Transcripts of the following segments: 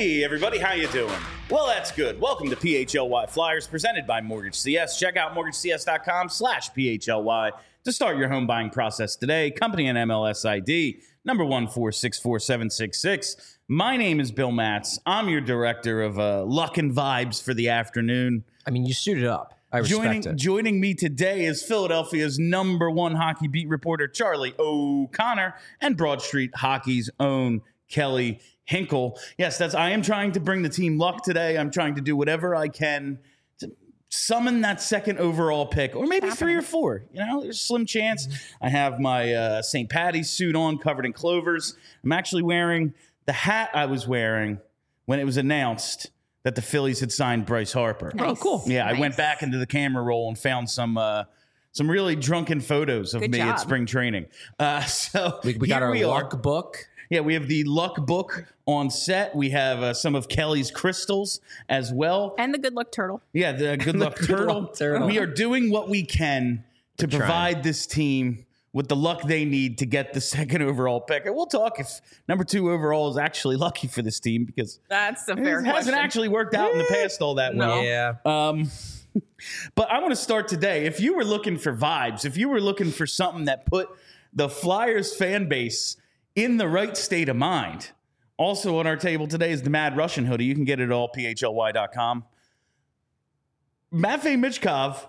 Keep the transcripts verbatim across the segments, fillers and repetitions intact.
Hey, everybody, how you doing? Well, that's good. Welcome to P H L Y Flyers, presented by Mortgage C S. Check out mortgage c s dot com slash P H L Y to start your home buying process today. Company and M L S I D, number one four six four seven six six. My name is Bill Matz. I'm your director of uh, luck and vibes for the afternoon. I mean, you suited up. I respect joining, it. Joining me today is Philadelphia's number one hockey beat reporter, Charlie O'Connor, and Broad Street Hockey's own Kelly Hinkle. Yes, that's. I am trying to bring the team luck today. I'm trying to do whatever I can to summon that second overall pick, or maybe three or four. You know, there's a slim chance. I have my uh, Saint Patty's suit on, covered in clovers. I'm actually wearing the hat I was wearing when it was announced that the Phillies had signed Bryce Harper. Nice. Oh, cool. Yeah, Nice. I went back into the camera roll and found some uh, some really drunken photos of Good me job. at spring training. Uh, so We, we got here our we are. luck book. Yeah, we have the luck book on set. We have uh, some of Kelly's crystals as well. And the good luck turtle. Yeah, the good luck Good turtle. luck turtle. We are doing what we can to We're trying. provide this team with the luck they need to get the second overall pick. And we'll talk if number two overall is actually lucky for this team, because That's a it fair hasn't question. actually worked out in the past all that well. Yeah. Um, but I want to start today. If you were looking for vibes, if you were looking for something that put the Flyers fan base in the right state of mind, also on our table today is the Mad Russian hoodie. You can get it at all P H L Y dot com. Matvei Michkov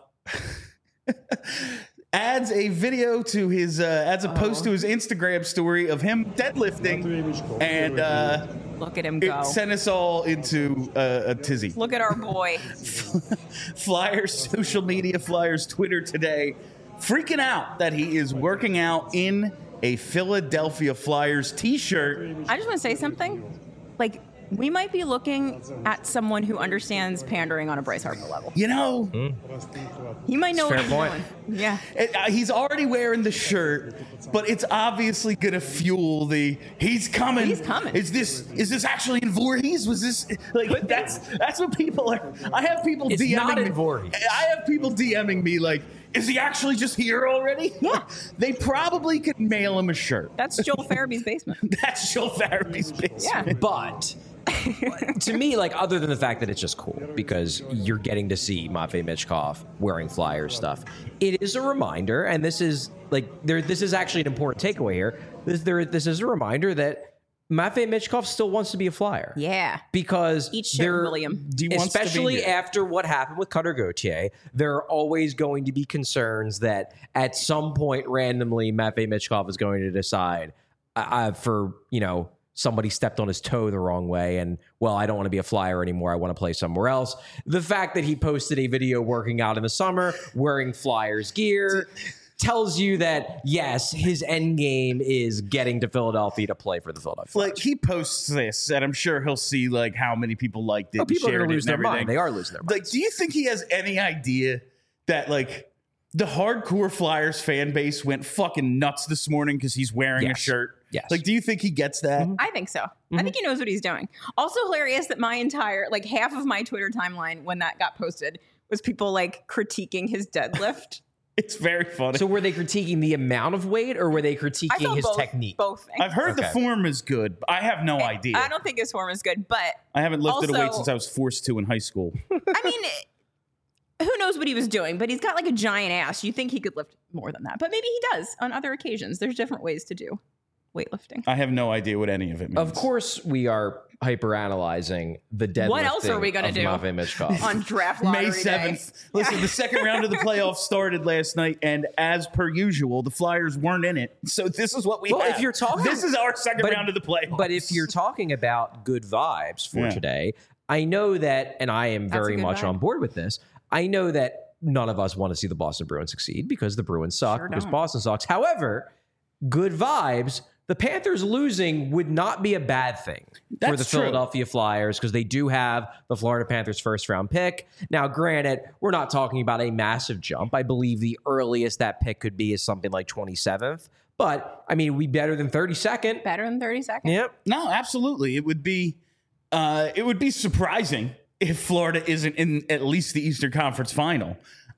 adds a video to his, uh, adds a post to his Instagram story of him deadlifting, and uh, Look at him go. it sent us all into uh, a tizzy. Look at our boy. Flyers social media, Flyers Twitter today, freaking out that he is working out in a Philadelphia Flyers t-shirt. I just want to say something. Like, we might be looking at someone who understands pandering on a Bryce Harper level. You know, He might know Fair what he's point. doing. Yeah. it, uh, he's already wearing the shirt, but it's obviously going to fuel the he's coming. He's coming. Is this is this actually in Voorhees? Was this like that's that's what people are. I have people It's DMing not in me. Voorhees. I have people DMing me like, is he actually just here already? Yeah. They probably could mail him a shirt. That's Joel Farabee's basement. That's Joel Farabee's basement. Yeah. But to me, like, other than the fact that it's just cool because you're getting to see Matvei Michkov wearing Flyers stuff, it is a reminder, and this is like there. This is actually an important takeaway here. This there. This is a reminder that Matvei Michkov still wants to be a Flyer. Yeah. Because Eat shit, there, William. He wants to be especially here. after what happened with Cutter Gauthier, there are always going to be concerns that at some point randomly Matvei Michkov is going to decide uh, uh, for, you know, somebody stepped on his toe the wrong way and, well, I don't want to be a Flyer anymore. I want to play somewhere else. The fact that he posted a video working out in the summer wearing Flyers gear tells you that, yes, his end game is getting to Philadelphia to play for the Philadelphia Flyers. Like, he posts this, and I'm sure he'll see like how many people liked it. Oh, people are shared going to it lose and their everything. mind. They are losing their mind. Like, do you think he has any idea that like the hardcore Flyers fan base went fucking nuts this morning because he's wearing a Yes. shirt? Yes. Like, do you think he gets that? I think so. Mm-hmm. I think he knows what he's doing. Also hilarious that my entire, like half of my Twitter timeline when that got posted was people like critiquing his deadlift. It's very funny. So were they critiquing the amount of weight or were they I critiquing felt his both, technique? Both things. I've heard the Okay. form is good, but I have no idea. I don't think his form is good, but I haven't lifted a weight also- since I was forced to in high school. I mean, who knows what he was doing, but he's got like a giant ass. You think he could lift more than that, but maybe he does on other occasions. There's different ways to do weightlifting. I have no idea what any of it means. Of course, we are hyper analyzing the deadlifting. What else are we gonna of do? Matvei Michkov. On draft lottery May day. seventh. Listen, the second round of the playoffs started last night, and as per usual, the Flyers weren't in it. So this is what we Well, have. if you're talking- This is our second But- round of the playoffs. But if you're talking about good vibes for Yeah. today, I know that, and I am That's a very good much vibe. on board with this. I know that none of us want to see the Boston Bruins succeed because the Bruins suck, Sure because don't. Boston sucks. However, good vibes. The Panthers losing would not be a bad thing for That's the true. Philadelphia Flyers because they do have the Florida Panthers first round pick. Now, granted, we're not talking about a massive jump. I believe the earliest that pick could be is something like twenty-seventh. But, I mean, it would be better than thirty-second. Better than thirty seconds. Yep. no, absolutely, it would be. Uh, it would be surprising if Florida isn't in at least the Eastern Conference Final.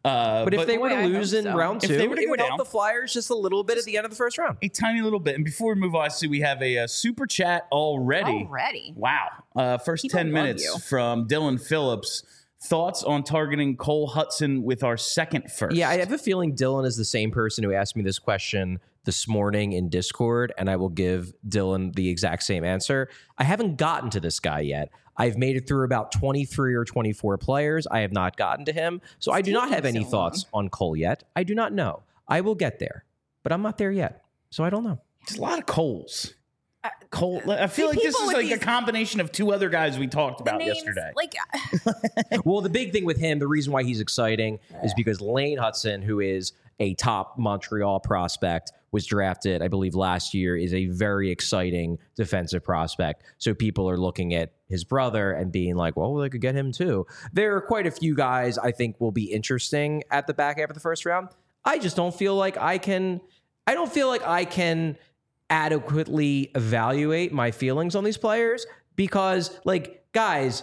Uh, But if they were to Boy, I lose hope in so. round If two, they were to it go would down- help the Flyers just a little bit at the end of the first round. a tiny little bit. And before we move on, I see we have a, uh super chat already. Already. Wow. Uh, first People ten love minutes you. from Dylan Phillips. Thoughts on targeting Cole Hudson with our second first? Yeah, I have a feeling Dylan is the same person who asked me this question this morning in Discord, and I will give Dylan the exact same answer. I haven't gotten to this guy yet. I've made it through about twenty-three or twenty-four players. I have not gotten to him. So I do not have any taking so thoughts on Cole yet. I do not know. I will get there, but I'm not there yet. So I don't know. It's a lot of Coles. Cole, I feel See, like this people is with like a these- combination of two other guys we talked The about names, yesterday. Like, Well, the big thing with him, the reason why he's exciting is because Lane Hudson, who is a top Montreal prospect, was drafted, I believe, last year, is a very exciting defensive prospect. So people are looking at his brother and being like, well, they could get him too. There are quite a few guys I think will be interesting at the back half of the first round. I just don't feel like I can, I don't feel like I can adequately evaluate my feelings on these players because, like, guys,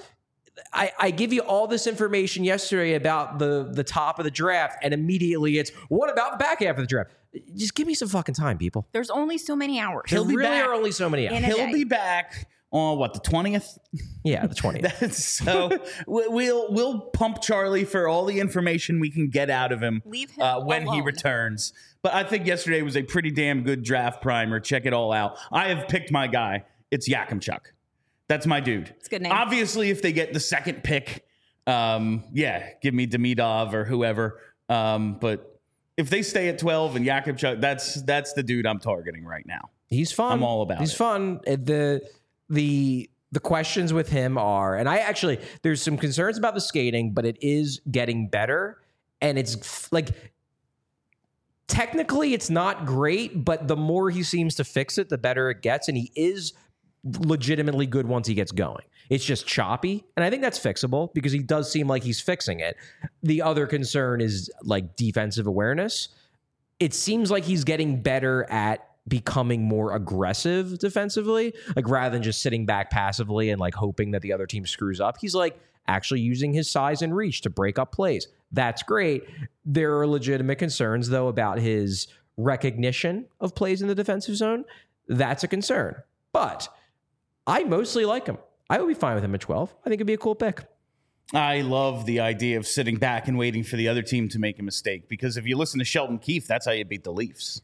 I, I give you all this information yesterday about the the top of the draft, and immediately it's, what about the back half of the draft? Just give me some fucking time, people. there's only so many hours. He'll There be really back. are only so many hours. In a He'll day. be back on what, the twentieth? Yeah, the twentieth. So we- we'll we'll pump Charlie for all the information we can get out of him, Leave him uh, when he alone. returns. But I think yesterday was a pretty damn good draft primer. Check it all out. I have picked my guy. It's Yakimchuk. That's my dude. It's a good name. Obviously, if they get the second pick, um, yeah, give me Demidov or whoever. Um, but if they stay at twelve and Yakimchuk, that's that's the dude I'm targeting right now. He's fun. I'm all about He's it. fun. Uh, The the the questions with him are, and I actually there's some concerns about the skating, but it is getting better, and it's f- like technically it's not great, but the more he seems to fix it, the better it gets, and he is legitimately good once he gets going. It's just choppy, and I think that's fixable because he does seem like he's fixing it. The other concern is like defensive awareness. It seems like he's getting better at becoming more aggressive defensively, like rather than just sitting back passively and like hoping that the other team screws up. He's like actually using his size and reach to break up plays. That's great. There are legitimate concerns though about his recognition of plays in the defensive zone. That's a concern, but I mostly like him. I would be fine with him at twelve. I think it'd be a cool pick. I love the idea of sitting back and waiting for the other team to make a mistake, because if you listen to Sheldon Keefe, that's how you beat the Leafs.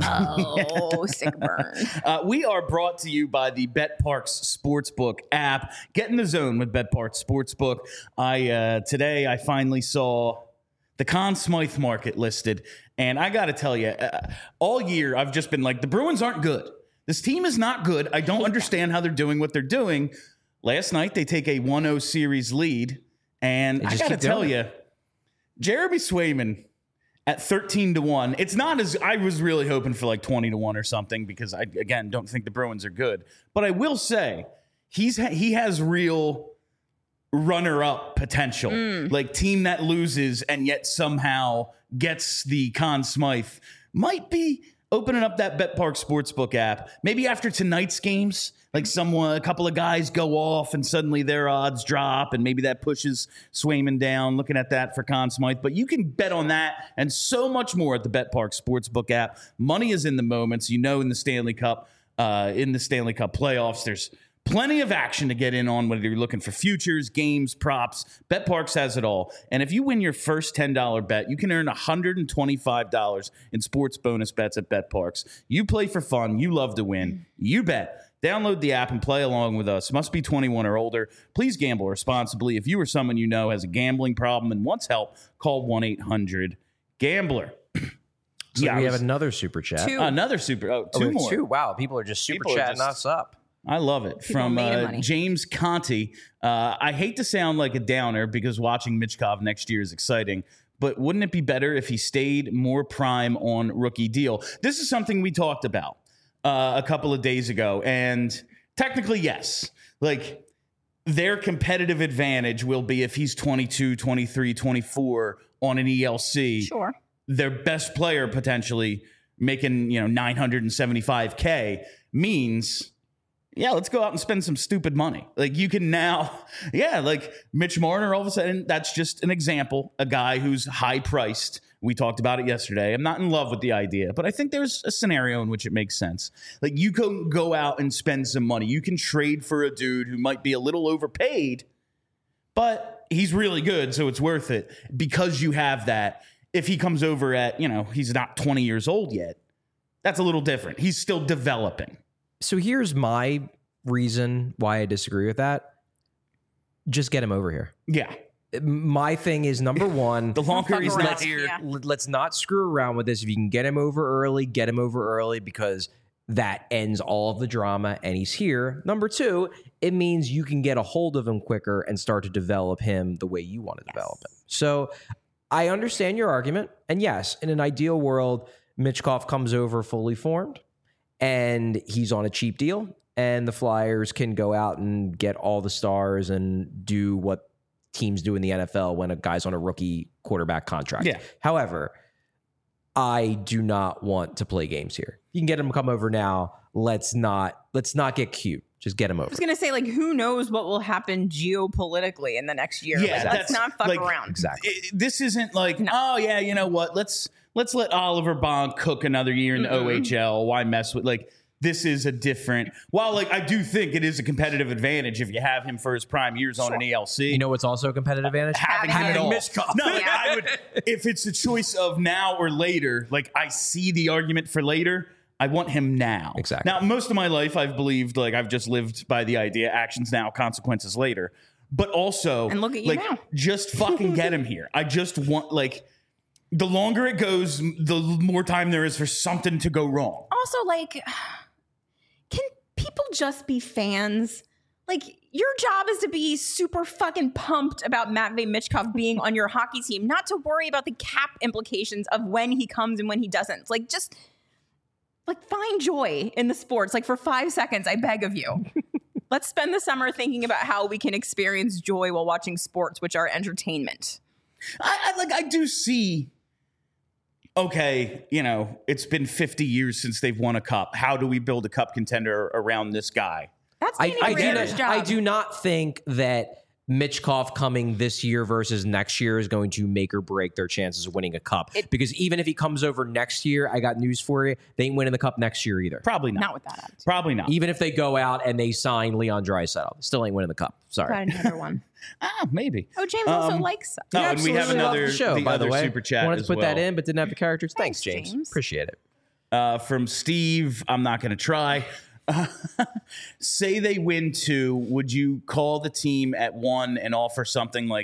Oh, sick burn. Uh, we are brought to you by the BetParks Sportsbook app. Get in the zone with BetParks Sportsbook. I uh, today I finally saw the Conn Smythe market listed, and I got to tell you, uh, all year I've just been like, the Bruins aren't good. This team is not good. I don't understand how they're doing what they're doing. Last night they take a one oh series lead, and They I just got to keep tell doing you, Jeremy Swayman at thirteen to one. It's not as I was really hoping for like twenty to one or something, because I again don't think the Bruins are good. But I will say he's he has real runner-up potential. Like team that loses and yet somehow gets the Conn Smythe might be opening up that BetPark Sportsbook app. Maybe after tonight's games, like someone, a couple of guys go off and suddenly their odds drop, and maybe that pushes Swayman down. Looking at that for Conn Smythe. But you can bet on that and so much more at the BetPark Sportsbook app. Money is in the moments. You know, in the Stanley Cup, uh, in the Stanley Cup playoffs, there's plenty of action to get in on, whether you're looking for futures, games, props. BetParks has it all. And if you win your first ten dollars bet, you can earn one hundred twenty-five dollars in sports bonus bets at BetParks. You play for fun. You love to win. You bet. Download the app and play along with us. Must be twenty-one or older. Please gamble responsibly. If you or someone you know has a gambling problem and wants help, call one eight hundred gambler. So Yeah, I we have was- another super chat. Two. Another super. Oh, Oh, two we have more. Two. Wow, people are just super People are chatting just- us up. I love it. People From made of uh, money. James Conti. Uh, I hate to sound like a downer because watching Michkov next year is exciting, but wouldn't it be better if he stayed more prime on rookie deal? This is something we talked about uh, a couple of days ago, and technically, yes. Like, their competitive advantage will be if he's twenty-two, twenty-three, twenty-four on an E L C. Sure. Their best player potentially making, you know, nine hundred seventy-five K means yeah, let's go out and spend some stupid money. Like you can now, yeah, like Mitch Marner, all of a sudden, that's just an example, a guy who's high priced. We talked about it yesterday. I'm not in love with the idea, but I think there's a scenario in which it makes sense. Like you can go out and spend some money. You can trade for a dude who might be a little overpaid, but he's really good, so it's worth it because you have that. If he comes over at, you know, he's not twenty years old yet, that's a little different. He's still developing. So here's my reason why I disagree with that. Just get him over here. Yeah. My thing is, number one, The longer he's around. not here, Yeah. l- let's not screw around with this. If you can get him over early, get him over early because that ends all of the drama and he's here. Number two, it means you can get a hold of him quicker and start to develop him the way you want to develop him. So I understand your argument. And yes, in an ideal world, Michkov comes over fully formed and he's on a cheap deal and the Flyers can go out and get all the stars and do what teams do in the N F L when a guy's on a rookie quarterback contract. Yeah. However, I do not want to play games here. You can get him to come over now. Let's not let's not get cute. Just get him over. I was gonna say, like, who knows what will happen geopolitically in the next year? Yeah, Like, that's- let's not fuck like, around. Exactly. it- this isn't like, No. oh yeah, you know what? Let's let's let Oliver Bonk cook another year in the Mm-mm. O H L. Why mess with like this is a different. While like I do think it is a competitive advantage if you have him for his prime years on an E L C. You know what's also a competitive advantage? having him Having at all. Michkov. No, like, Yeah. I would. If it's a choice of now or later, like I see the argument for later. I want him now. Exactly. Now, most of my life, I've believed like I've just lived by the idea: actions now, consequences later. But also, And look at you like, now. just fucking get him here. I just want like the longer it goes, the more time there is for something to go wrong. Also, like, can people just be fans? Like, your job is to be super fucking pumped about Matvei Michkov being on your hockey team, not to worry about the cap implications of when he comes and when he doesn't. Like, just like find joy in the sports. Like, for five seconds, I beg of you. Let's spend the summer thinking about how we can experience joy while watching sports, which are entertainment. I, I like. I do see. Okay, you know, it's been fifty years since they've won a cup. How do we build a cup contender around this guy? That's I, Danny I, do Brienne's not, job. I do not think that Michkov coming this year versus next year is going to make or break their chances of winning a cup. It- because even if he comes over next year, I got news for you, they ain't winning the cup next year either. Probably not. Not with that attitude. Probably not. Even if they go out and they sign Leon Draisaitl, still ain't winning the cup. Sorry. Got another one. Ah, maybe. Oh, James also Um, likes Oh, and we have Absolutely off another the show, the by the other way. super chat Wanted to as put that well. in, but didn't have the characters. Thanks, Thanks, James. James. Appreciate it. Uh, from Steve, I'm not going to try. Say they win two, would you call the team at one and offer something like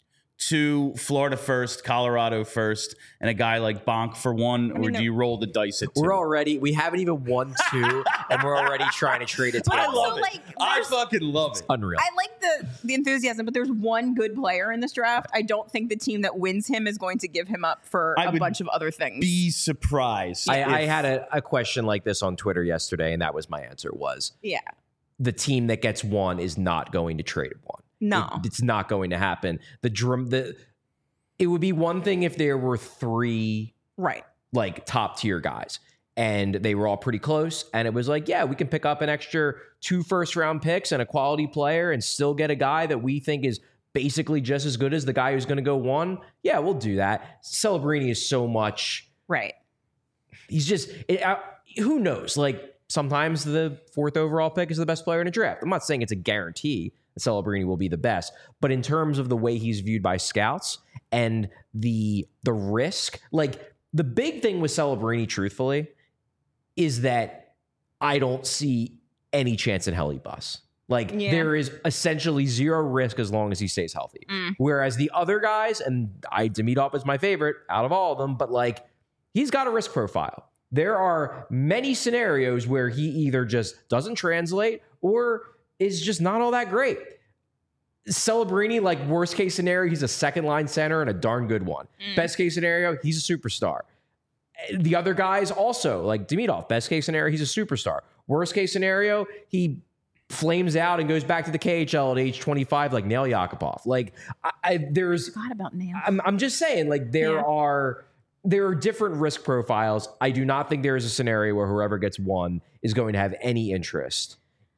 two, Florida first, Colorado first, and a guy like Bonk for one, mean, or do they're- you roll the dice at two? We're already, we haven't even won two, and we're already trying to trade it But I together. also, love it. like, I there's- fucking love it. Unreal. I like the the enthusiasm, but there's one good player in this draft. I don't think the team that wins him is going to give him up for I a would bunch of other things. Be surprised. I, I if- had a, a question like this on Twitter yesterday, and that was my answer was yeah. the team that gets one is not going to trade one. No. It- it's not going to happen. The drum the it would be one thing if there were three Right. like top tier guys and they were all pretty close and it was like, yeah, we can pick up an extra two first round picks and a quality player and still get a guy that we think is basically just as good as the guy who's going to go one. Yeah, we'll do that. Celebrini is so much Right. he's just it, uh, who knows, like sometimes the fourth overall pick is the best player in a draft. I'm not saying it's a guarantee that Celebrini will be the best, but in terms of the way he's viewed by scouts and the the risk, like the big thing with Celebrini truthfully is that I don't see any chance in hell he busts. Like Yeah. there is essentially zero risk as long as he stays healthy. Mm. Whereas the other guys, and I Demidov is my favorite out of all of them, but like he's got a risk profile. There are many scenarios where he either just doesn't translate or is just not all that great. Celebrini, like worst case scenario, he's a second line center and a darn good one. Mm. Best case scenario, he's a superstar. The other guys also, like Demidov, best case scenario, he's a superstar. Worst case scenario, he flames out and goes back to the K H L at age twenty-five, like Nail Yakupov. Like I, I there's Forgot about Nail. I'm, I'm just saying, like there Yeah. are there are different risk profiles. I do not think there is a scenario where whoever gets one is going to have any interest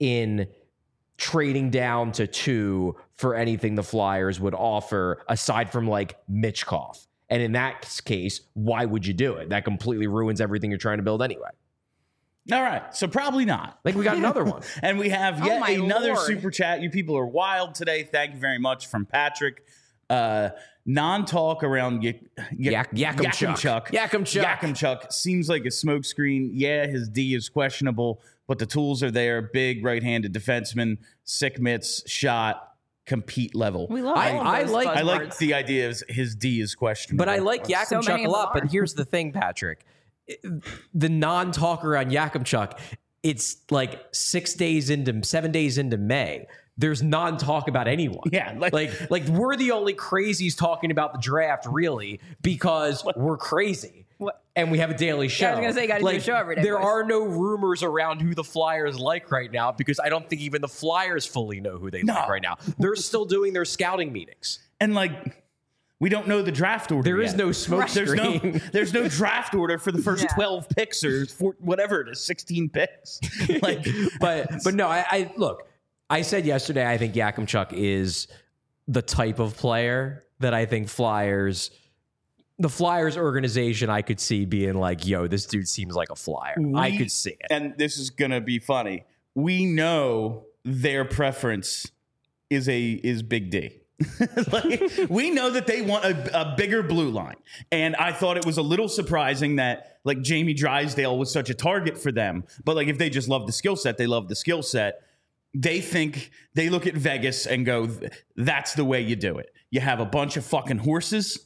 in trading down to two for anything the Flyers would offer aside from like Michkov. And in that case, why would you do it? That completely ruins everything you're trying to build anyway. All right, so probably not. Like we got another one. And we have Oh yet my another Lord. super chat. You people are wild today. Thank you very much from Patrick. Uh, non-talk around y- y- Yak- Yakimchuk. Yakimchuk. Yakimchuk seems like a smokescreen. Yeah, his D is questionable, but the tools are there. Big right-handed defenseman, sick mitts, shot, compete level. We love I- all of I those like- I like buzzwords. the idea of his D is questionable. But I like So Yakimchuk many a of lot. them But are. here's the thing, Patrick. The non-talker on Yakimchuk, it's like six days into, seven days into May. There's non-talk about anyone. Yeah, like- like, like we're the only crazies talking about the draft, really, because we're crazy. What? And we have a daily show. Yeah, I was gonna say, you gotta do a show every day, There boys. are no rumors around who the Flyers like right now because I don't think even the Flyers fully know who they No. like right now. They're still doing their scouting meetings. and like we don't know the draft order. There is yet. no smoke There's no screen. there's no draft order for the first Yeah. twelve picks or for whatever it is, sixteen picks. Like, but but no, I, I look. I said yesterday I think Yakimchuk is the type of player that I think Flyers, the Flyers organization, I could see being like, "Yo, this dude seems like a Flyer." I We- could see it. and this is gonna be funny. We know their preference is a is Big D. Like, we know that they want a, a bigger blue line, and I thought it was a little surprising that like Jamie Drysdale was such a target for them. But like, if they just love the skill set, they love the skill set. They think they look at Vegas and go, "That's the way you do it. You have a bunch of fucking horses."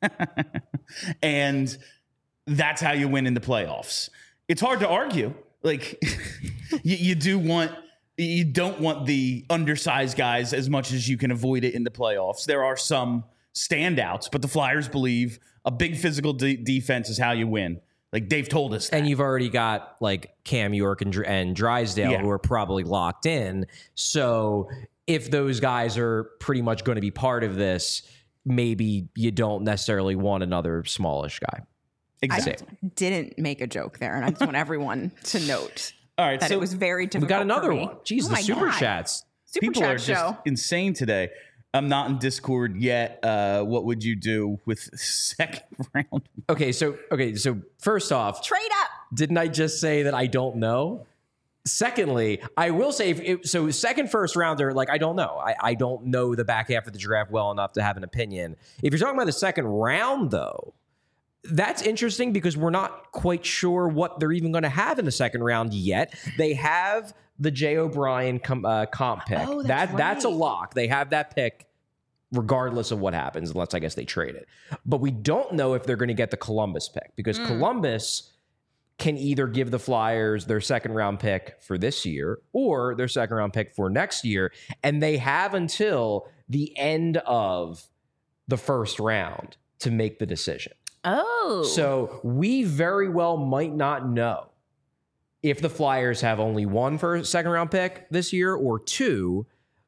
And that's how you win in the playoffs. It's hard to argue. Like you, you do want, you don't want the undersized guys as much as you can avoid it in the playoffs. There are some standouts, but the Flyers believe a big physical de- defense is how you win. Like Dave told us that. And you've already got like Cam York and, Dr- and Drysdale Yeah. who are probably locked in. So if those guys are pretty much going to be part of this, maybe you don't necessarily want another smallish guy. I Exactly. didn't make a joke there, and I just want everyone to note All right. that So it was very We difficult. got another for me. one. Jeez, Oh the my super God. chats. Super people chat are show. just insane today. I'm not in Discord yet. Uh, what would you do with second round? Okay, so okay, so first off, Trade up. didn't I just say that I don't know? Secondly, I will say, if it, so second first rounder, like I don't know. I, I don't know the back half of the draft well enough to have an opinion. If you're talking about the second round, though, that's interesting because we're not quite sure what they're even going to have in the second round yet. They have the Jay O'Brien com, uh, comp pick. Oh, that that's That's a right. lock. They have that pick regardless of what happens, unless I guess they trade it. But we don't know if they're going to get the Columbus pick because Columbus can either give the Flyers their second round pick for this year or their second round pick for next year. And they have until the end of the first round to make the decision. Oh. So we very well might not know if the Flyers have only one first second round pick this year or two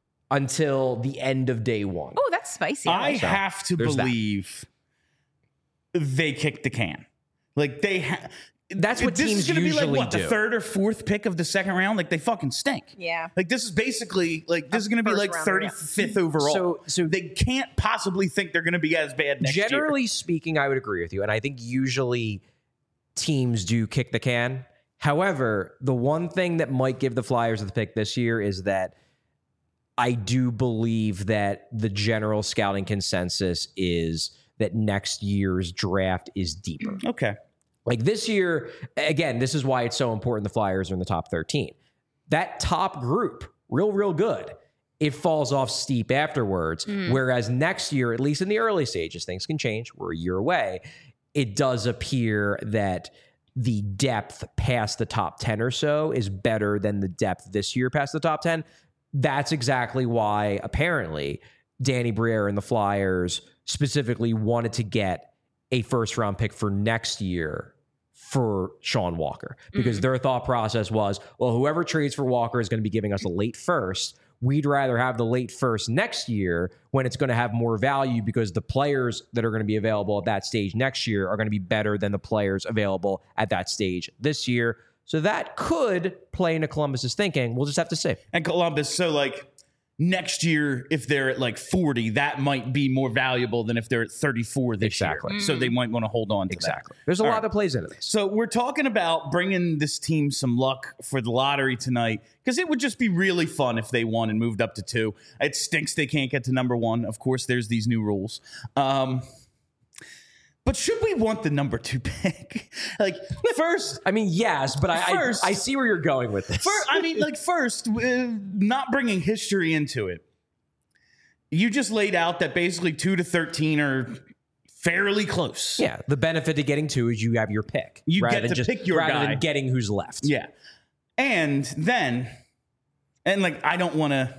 until the end of day one. Oh, that's spicy. I So, have to there's that. believe they kicked the can. Like they ha- That's what this teams is gonna be usually like what do. the third or fourth pick of the second round. Like they fucking stink. Yeah. Like this is basically like this is going to be first like rounder, yeah. thirty-fifth overall. So- so- they can't possibly think they're going to be as bad next year. Generally speaking, I would agree with you. And I think usually teams do kick the can. However, the one thing that might give the Flyers the pick this year is that I do believe that the general scouting consensus is that next year's draft is deeper. Okay. Like this year, again, this is why it's so important the Flyers are in the top thirteen. That top group, real, real good. It falls off steep afterwards. Whereas next year, at least in the early stages, things can change. We're a year away. It does appear that the depth past the top ten or so is better than the depth this year past the top ten. That's exactly why, apparently, Danny Briere and the Flyers specifically wanted to get a first round pick for next year for Sean Walker, because their thought process was, well, whoever trades for Walker is going to be giving us a late first. We'd rather have the late first next year when it's going to have more value because the players that are going to be available at that stage next year are going to be better than the players available at that stage this year. So that could play into Columbus's thinking. We'll just have to see. And Columbus, so like next year, if they're at like forty, that might be more valuable than if they're at thirty-four this Exactly. year. So they might want to hold on to Exactly. that. There's a All lot right. that plays into this. So we're talking about bringing this team some luck for the lottery tonight because it would just be really fun if they won and moved up to two. It stinks they can't get to number one. Of course, there's these new rules. Um, but should we want the number two pick? Like, first, I mean, yes, but I, First- I I see where you're going with this. fir- I mean, like, first, uh, not bringing history into it. You just laid out that basically two to thirteen are fairly close. Yeah, the benefit to getting two is you have your pick. You rather get than to just, pick your rather guy. than getting who's left. Yeah. And then, and like, I don't want to,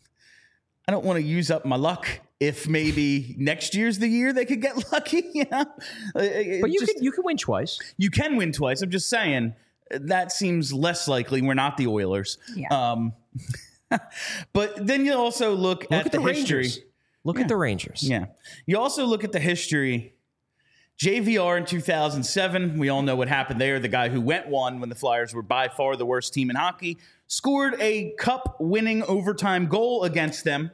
I don't want to use up my luck if maybe next year's the year they could get lucky, you know? But you can you can win twice. you can win twice. I'm just saying that seems less likely. We're not the Oilers. Yeah. Um, but then you also look, Look at, at, the, the, history. Rangers. Look at the Rangers. Yeah. You also look at the history. J V R in two thousand seven, we all know what happened there. The guy who went one when the Flyers were by far the worst team in hockey scored a cup-winning overtime goal against them.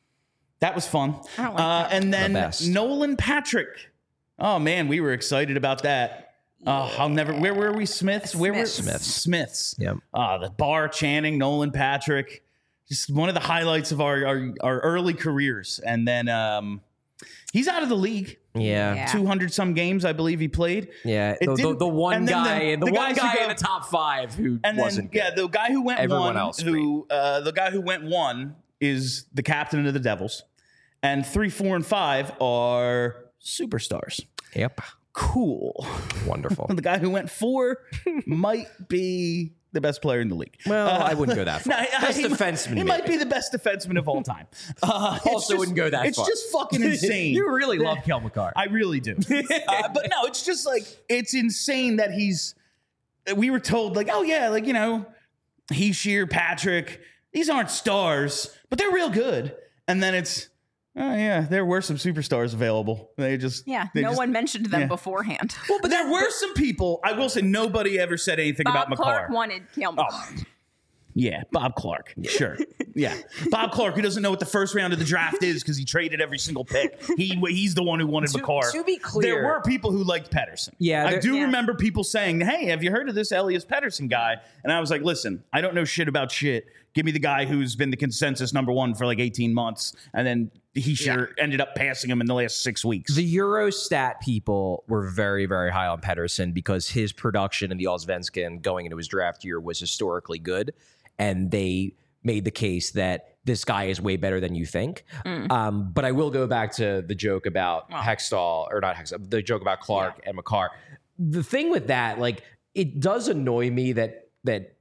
That was fun. I don't like uh, that. and then The best. Nolan Patrick. Oh, man, we were excited about that. Oh, I'll never. Where were we? Smiths? Where were Smiths. Smiths. Yep. Ah, the bar chanting Nolan Patrick. Just one of the highlights of our our, our early careers. And then um, he's out of the league. Yeah. Yeah. two hundred some games, I believe he played. Yeah, It the, the, didn't- the one and then guy, the, the one guys who guy go- in the top five who And then, wasn't good. yeah, the guy who went Everyone one, else who uh, the guy who went one is the captain of the Devils, and three, four, and five are superstars. Yep, Cool. wonderful. The guy who went four might be the best player in the league. Well, Uh, I wouldn't go that far. no, Best he, defenseman, He maybe. might be the best defenseman of all time. Uh, it's Also just- wouldn't go that it's far. just fucking insane. You really love Kel McCarr. I really do. uh, but no, it's just like, it's insane that he's, we were told, like, oh, yeah, like, you know, Heishier, Patrick, these aren't stars, but they're real good. And then it's, oh, yeah, there were some superstars available. They just, Yeah, they no just- one mentioned them yeah. beforehand. Well, but there were some people, I will say, nobody ever said anything Bob about McCarr. Clark wanted Cale McCarr. Yeah, Bob Clark. Sure. Yeah. Bob Clark, who doesn't know what the first round of the draft is because he traded every single pick. He He's the one who wanted To- McCarr. to be clear- there were people who liked Pedersen. Yeah, I there- do Yeah. remember people saying, hey, have you heard of this Elias Pedersen guy? And I was like, listen, I don't know shit about shit. Give me the guy who's been the consensus number one for like eighteen months. And then he sure ended up passing him in the last six weeks. The Eurostat people were very, very high on Pedersen because his production in the Allsvenskan going into his draft year was historically good. And they made the case that this guy is way better than you think. Um, but I will go back to the joke about Wow. Hextall, or not Hextall, the joke about Clark and McCarr. The thing with that, like, it does annoy me that that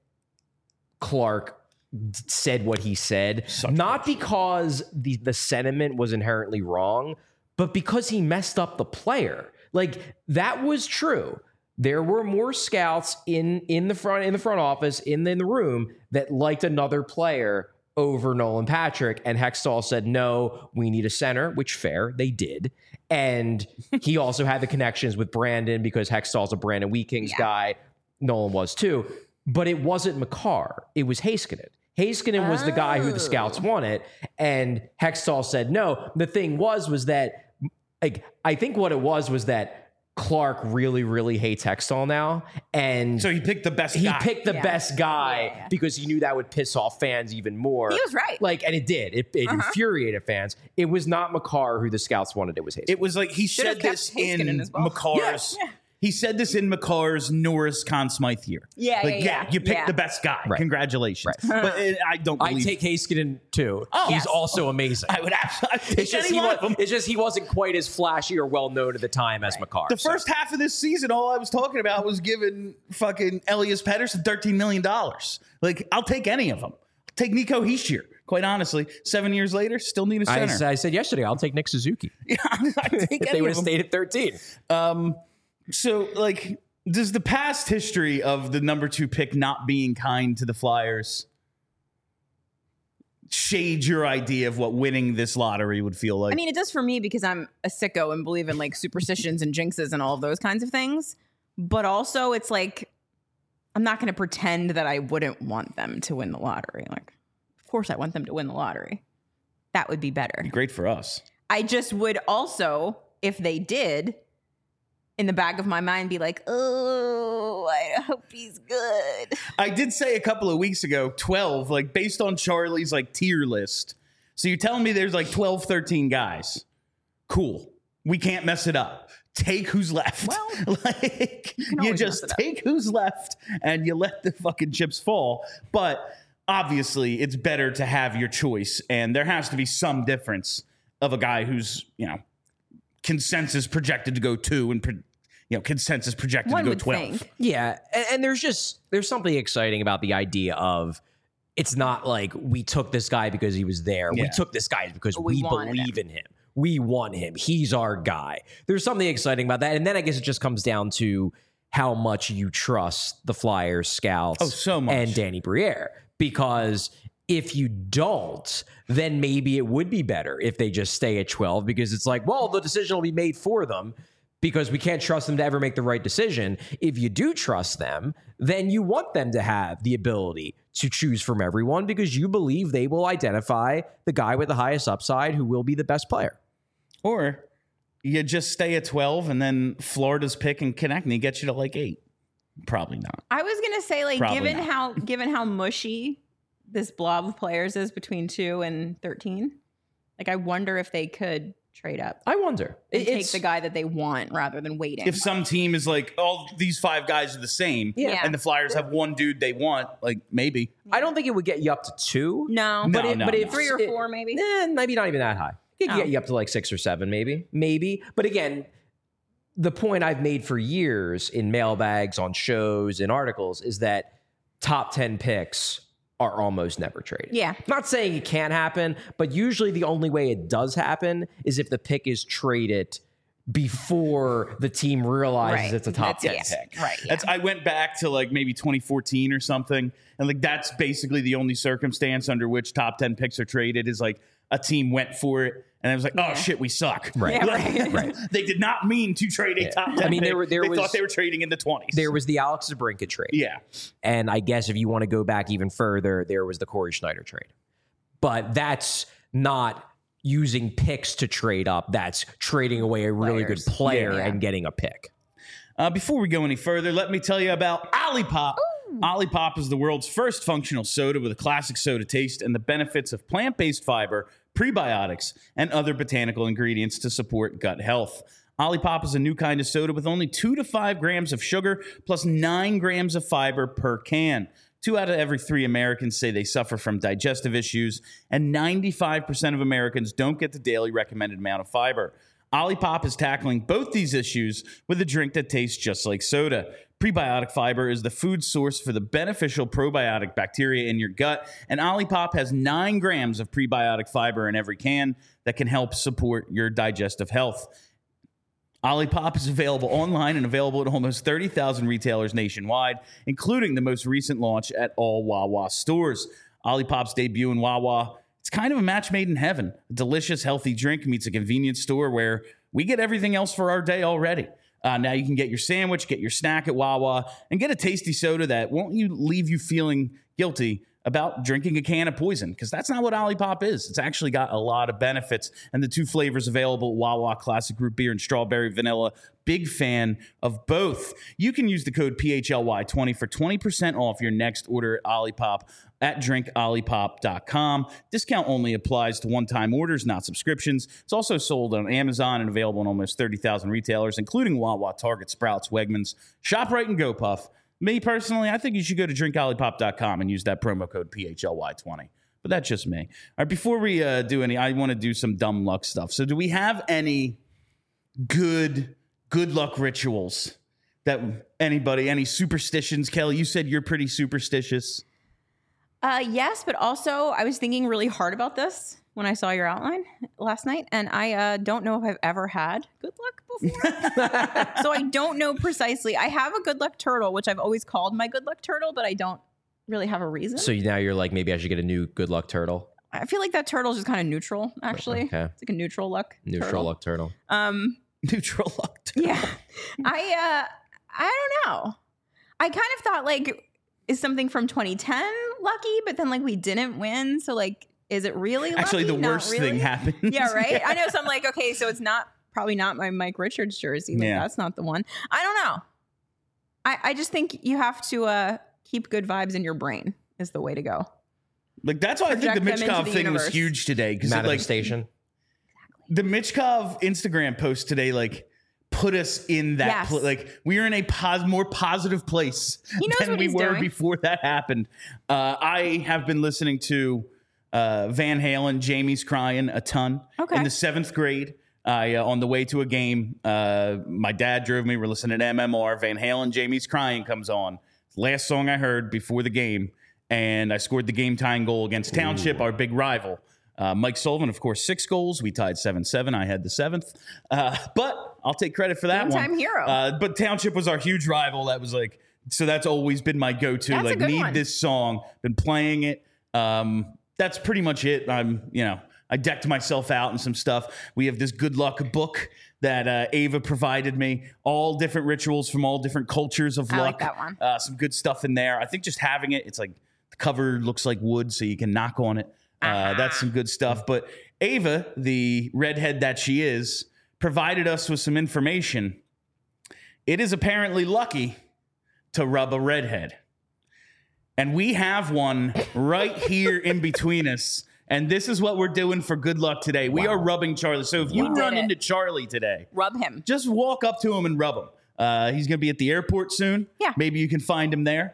Clark said what he said, not because the the sentiment was inherently wrong, but because he messed up the player. Like, that was true. There were more scouts in in the front in the front office in the, in the room that liked another player over Nolan Patrick, and Hextall said, no, we need a center, which fair, they did. And he also had the connections with Brandon because Hextall's a Brandon Wheat-Kings Yeah. guy. Nolan was too. But it wasn't McCarr. It was Heiskanen. Heiskanen was the guy who the scouts wanted, and Hextall said no. The thing was, was that, like, I think what it was was that Clark really, really hates Hextall now, and So he picked the best he guy. picked the Yeah. best guy Yeah, yeah. because he knew that would piss off fans even more. He was right. Like, and it did. It, it Uh-huh. infuriated fans. It was not McCarr who the scouts wanted. It was Heiskanen. It was like he Should've said kept this Heiskanen in as well. McCarr's. Yeah. He said this in McCarr's Norris Conn Smythe year. Yeah, like, yeah, yeah. you picked Yeah. the best guy. Right. Congratulations. Right. But uh, I don't I believe take Heiskanen too. Oh, He's yes. also amazing. I would absolutely I'd take It's just, any he one was, of them. it's just he wasn't quite as flashy or well known at the time as McCarr. The so. first half of this season, all I was talking about was giving fucking Elias Pettersson thirteen million dollars. Like, I'll take any of them. I'll take Nico Heishier. Quite honestly, seven years later, still need a I, center. I said yesterday, I'll take Nick Suzuki. Yeah, I'd take If any they would of have them. stayed at thirteen. Um, so, like, does the past history of the number two pick not being kind to the Flyers shade your idea of what winning this lottery would feel like? I mean, it does for me because I'm a sicko and believe in like superstitions and jinxes and all of those kinds of things. But also, it's like I'm not going to pretend that I wouldn't want them to win the lottery. Like, of course I want them to win the lottery. That would be better. Great for us. I just would also, if they did, in the back of my mind be like, oh, I hope he's good. I did say a couple of weeks ago, twelve, like based on Charlie's like tier list. So you're telling me there's like twelve, thirteen guys. Cool. We can't mess it up. Take who's left. Well, like you, you just take who's left and you let the fucking chips fall. But obviously it's better to have your choice. And there has to be some difference of a guy who's, you know, consensus projected to go two and, pro- you know, consensus projected One to go would twelve. think. Yeah, and, and there's just there's something exciting about the idea of it's not like we took this guy because he was there. Yeah. We took this guy because We we, wanted believe in him. We want him. He's our guy. There's something exciting about that. And then I guess it just comes down to how much you trust the Flyers scouts Oh, so much. and Danny Briere. Because if you don't, then maybe it would be better if they just stay at twelve, because it's like, well, the decision will be made for them because we can't trust them to ever make the right decision. If you do trust them, then you want them to have the ability to choose from everyone because you believe they will identify the guy with the highest upside who will be the best player. Or you just stay at twelve and then Florida's pick and Konechny gets you to like eight. Probably not. I was gonna say, like, Probably given not. how given how mushy this blob of players is between two and thirteen, like, I wonder if they could trade up I wonder. and It- take it's- the guy that they want rather than waiting. If some team is like, all these five guys are the same, Yeah. and the Flyers have one dude they want, like maybe. I don't think it would get you up to two. no, No, But, it, no, but no. if three or it- four maybe. Eh, maybe not even that high. It could Oh. get you up to like six or seven, maybe. Maybe. But again, the point I've made for years in mailbags, on shows, in articles is that top ten picks are almost never traded. Yeah. Not saying it can't happen, but usually the only way it does happen is if the pick is traded before the team realizes Right. it's a top That's- ten yeah. pick. Right. Yeah. That's I went back to like maybe twenty fourteen or something, and like that's basically the only circumstance under which top ten picks are traded is like a team went for it, and I was like, oh Yeah. shit, we suck. Right. Yeah, Like, right. Right. They did not mean to trade a Yeah. top ten. I mean, there pick. were- there they was- thought they were trading in the twenties. There was the Alex Zabrinka trade. yeah. And I guess if you want to go back even further, there was the Corey Schneider trade. But that's not using picks to trade up. That's trading away a really Players. good player Yeah. and getting a pick. Uh, before we go any further, let me tell you about Olipop. Olipop is the world's first functional soda with a classic soda taste and the benefits of plant-based fiber, prebiotics, and other botanical ingredients to support gut health. Olipop is a new kind of soda with only two to five grams of sugar plus nine grams of fiber per can. Two out of every three Americans say they suffer from digestive issues, and ninety-five percent of Americans don't get the daily recommended amount of fiber. Olipop is tackling both these issues with a drink that tastes just like soda. Prebiotic fiber is the food source for the beneficial probiotic bacteria in your gut, and Olipop has nine grams of prebiotic fiber in every can that can help support your digestive health. Olipop is available online and available at almost thirty thousand retailers nationwide, including the most recent launch at all Wawa stores. Olipop's debut in Wawa, it's kind of a match made in heaven. A delicious, healthy drink meets a convenience store where we get everything else for our day already. Uh, now you can get your sandwich, get your snack at Wawa, and get a tasty soda that won't you leave you feeling guilty about drinking a can of poison, because that's not what Olipop is. It's actually got a lot of benefits, and the two flavors available, Wawa Classic Root Beer and Strawberry Vanilla. Big fan of both. You can use the code P H L Y twenty for twenty percent off your next order at Olipop at drink olipop dot com. Discount only applies to one-time orders, not subscriptions. It's also sold on Amazon and available in almost thirty thousand retailers, including Wawa, Target, Sprouts, Wegmans, ShopRite, and GoPuff. Me, personally, I think you should go to drink olipop dot com and use that promo code P H L Y twenty. But that's just me. All right, before we uh, do any, I want to do some dumb luck stuff. So do we have any good, good luck rituals that anybody, any superstitions? Kelly, you said you're pretty superstitious. Uh, yes, but also I was thinking really hard about this when I saw your outline last night, and I uh, don't know if I've ever had good luck before. So I don't know precisely. I have a good luck turtle, which I've always called my good luck turtle, but I don't really have a reason. So now you're like, maybe I should get a new good luck turtle. I feel like that turtle's just kind of neutral, actually. Okay. It's like a neutral luck. Neutral turtle. luck turtle. Um, Neutral luck. turtle. yeah. I uh, I don't know. I kind of thought like, is something from twenty ten lucky? But then like we didn't win. So like, is it really lucky? Actually, the Not worst really. thing happened. Yeah, right? I know. So I'm like, okay, so it's not probably not my Mike Richards jersey. Like, Yeah. that's not the one. I don't know. I, I just think you have to uh, keep good vibes in your brain is the way to go. Like, that's why I think the Project them into Mitchkov the thing universe. was huge today. Because like Manifestation. the Mitchkov Instagram post today, like, put us in that Yes. pl- like we were in a pos- more positive place He knows than what we he's were doing. before that happened. Uh, I have been listening to uh, Van Halen, Jamie's Crying a ton. Okay. In the seventh grade, I uh, on the way to a game, uh, my dad drove me. We're listening to M M R. Van Halen, Jamie's Crying comes on. Last song I heard before the game, and I scored the game tying goal against Township, our big rival. Uh, Mike Sullivan, of course, six goals. We tied seven seven. I had the seventh. Uh, but I'll take credit for that Game-time one. hero. Uh, but Township was our huge rival. That was like, so that's always been my go-to. That's a like, good need one. this song. Been playing it. Um, that's pretty much it. I'm, you know, I decked myself out and some stuff. We have this good luck book that uh, Ava provided me. All different rituals from all different cultures of I luck. like that one. Uh, some good stuff in there. I think just having it, it's like the cover looks like wood, so you can knock on it. Uh, that's some good stuff. But Ava, the redhead that she is, provided us with some information. It is apparently lucky to rub a redhead. And we have one right here in between us. And this is what we're doing for good luck today. We are rubbing Charlie. So if you You did run it. into Charlie today, Rub him. just walk up to him and rub him. Uh, he's going to be at the airport soon. Yeah. Maybe you can find him there.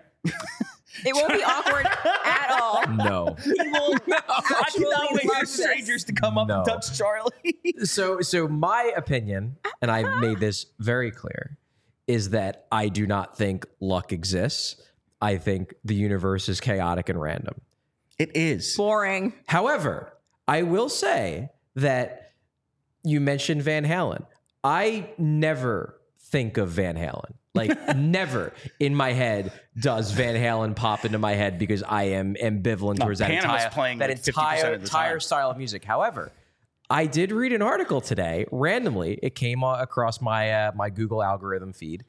It won't be awkward at all. No. He will I Actually cannot wait for love this. strangers to come up No. and touch Charlie. So, so my opinion, and I made this very clear, is that I do not think luck exists. I think the universe is chaotic and random. It is. Boring. However, I will say that you mentioned Van Halen. I never think of Van Halen. Like, never in my head does Van Halen pop into my head because I am ambivalent towards that Panama's entire, playing that like fifty percent entire, of the entire time. style of music. However, I did read an article today, randomly. It came uh, across my uh, my Google algorithm feed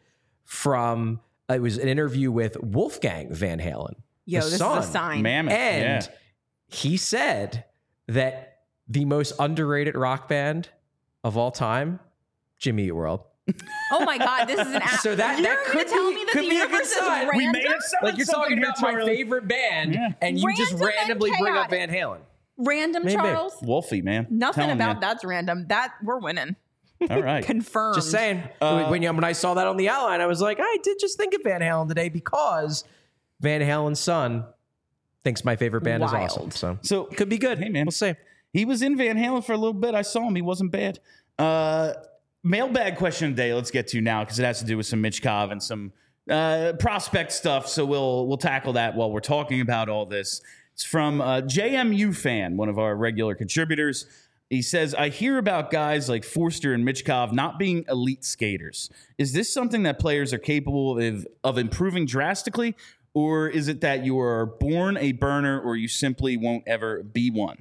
from, uh, it was an interview with Wolfgang Van Halen. Yo, the this son. is a sign. Mammoth. And yeah. he said that the most underrated rock band of all time, Jimmy Eat World. Oh my God, this is an app. So that- You're that gonna could tell be- me that could the be a good universe is sign. random? We may have said Like, you're something talking here, about my Charlie. favorite band, Yeah. and you just Random and randomly bring up chaotic. Van Halen. Random, Maybe. Charles. Wolfie, man. Nothing Telling about ya. that's random. That we're winning. All right. Confirmed. Just saying. Uh, when, when I saw that on the outline, I was like, I did just think of Van Halen today because Van Halen's son thinks my favorite band is Wild. awesome. So, So could be good. Hey, man. We'll see. He was in Van Halen for a little bit. I saw him. He wasn't bad. Uh, mailbag question of the day. Let's get to now because it has to do with some Mitchkov and some uh, prospect stuff. So we'll we'll tackle that while we're talking about all this. It's from uh, J M U fan, one of our regular contributors. He says, I hear about guys like Forster and Mitchkov not being elite skaters. Is this something that players are capable of, of improving drastically? Or is it that you are born a burner or you simply won't ever be one?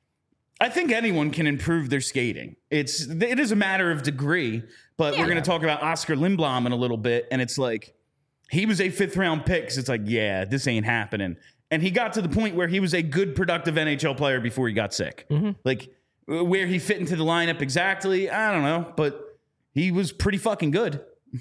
I think anyone can improve their skating. It's it is a matter of degree, but Yeah. we're going to talk about Oscar Lindblom in a little bit, and it's like he was a fifth round pick. So it's like, yeah, this ain't happening. And he got to the point where he was a good, productive N H L player before he got sick. Like where he fit into the lineup exactly, I don't know, but he was pretty fucking good.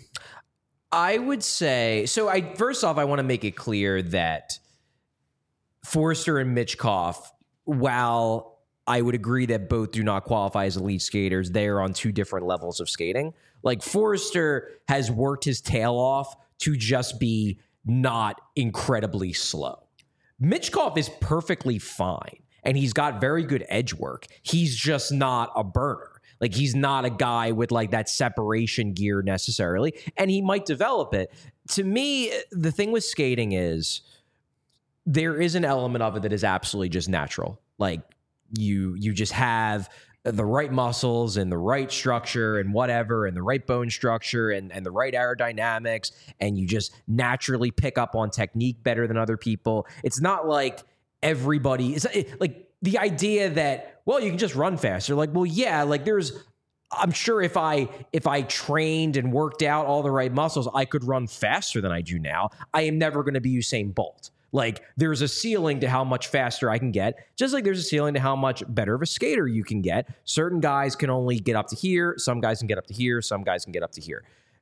I would say so. I first off, I want to make it clear that Forster and Mitchkov, while I would agree that both do not qualify as elite skaters, they are on two different levels of skating. Like Forster has worked his tail off to just be not incredibly slow. Mitchkov is perfectly fine, and he's got very good edge work. He's just not a burner. Like, he's not a guy with like that separation gear necessarily, and he might develop it. To me, the thing with skating is there is an element of it that is absolutely just natural. Like you, you just have the right muscles and the right structure and whatever, and the right bone structure and, and the right aerodynamics, and you just naturally pick up on technique better than other people. It's not like everybody is like the idea that, well, you can just run faster. Like, well, yeah, like there's I'm sure if I if I trained and worked out all the right muscles, I could run faster than I do now. I am never going to be Usain Bolt. Like, there's a ceiling to how much faster I can get, just like there's a ceiling to how much better of a skater you can get. Certain guys can only get up to here. Some guys can get up to here. Some guys can get up to here.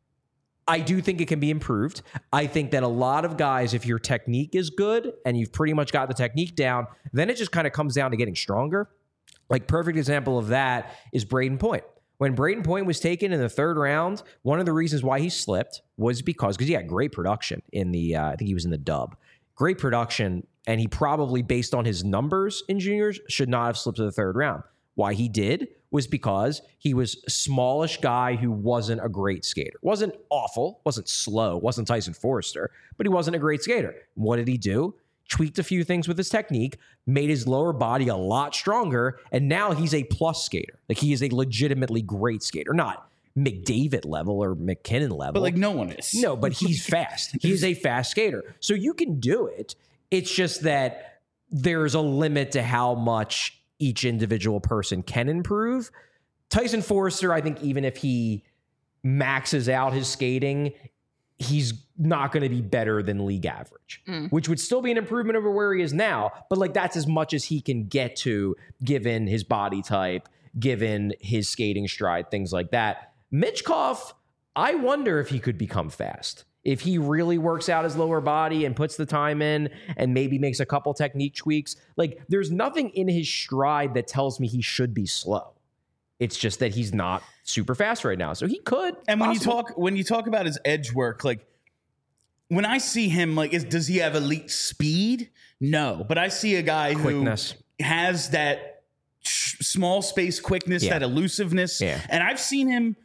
I do think it can be improved. I think that a lot of guys, if your technique is good and you've pretty much got the technique down, then it just kind of comes down to getting stronger. Like, perfect example of that is Braden Point. When Braden Point was taken in the third round, one of the reasons why he slipped was because because he had great production in the, uh, I think he was in the dub. Great production, and he probably, based on his numbers in juniors, should not have slipped to the third round. Why he did was because he was a smallish guy who wasn't a great skater. Wasn't awful, wasn't slow, wasn't Tyson Forrester, but he wasn't a great skater. What did he do? Tweaked a few things with his technique, made his lower body a lot stronger, and now he's a plus skater. Like, he is a legitimately great skater. Not McDavid level or McKinnon level. But like no one is. No, but he's fast. He's a fast skater. So you can do it. It's just that there's a limit to how much each individual person can improve. Tyson Forrester, I think even if he maxes out his skating, he's not going to be better than league average, mm. which would still be an improvement over where he is now. But like, that's as much as he can get to given his body type, given his skating stride, things like that. Michkov, I wonder if he could become fast. If he really works out his lower body and puts the time in and maybe makes a couple technique tweaks. Like, there's nothing in his stride that tells me he should be slow. It's just that he's not super fast right now. So he could. And when possible. you talk when you talk about his edge work, like when I see him, like, is, does he have elite speed? No. But I see a guy Quickness. who has that sh- small space quickness, Yeah. that elusiveness. Yeah. And I've seen him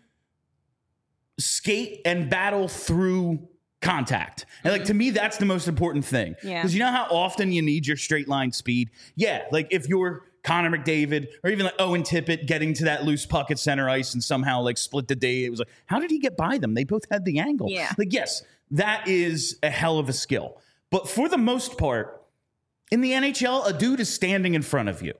skate and battle through contact. And like, to me, that's the most important thing. Yeah. Because you know how often you need your straight line speed? Yeah. Like if you're Connor McDavid or even like Owen Tippett getting to that loose puck at center ice and somehow like split the day. It was like, how did he get by them? They both had the angle. Yeah. Like, yes, that is a hell of a skill. But for the most part, in the N H L, a dude is standing in front of you.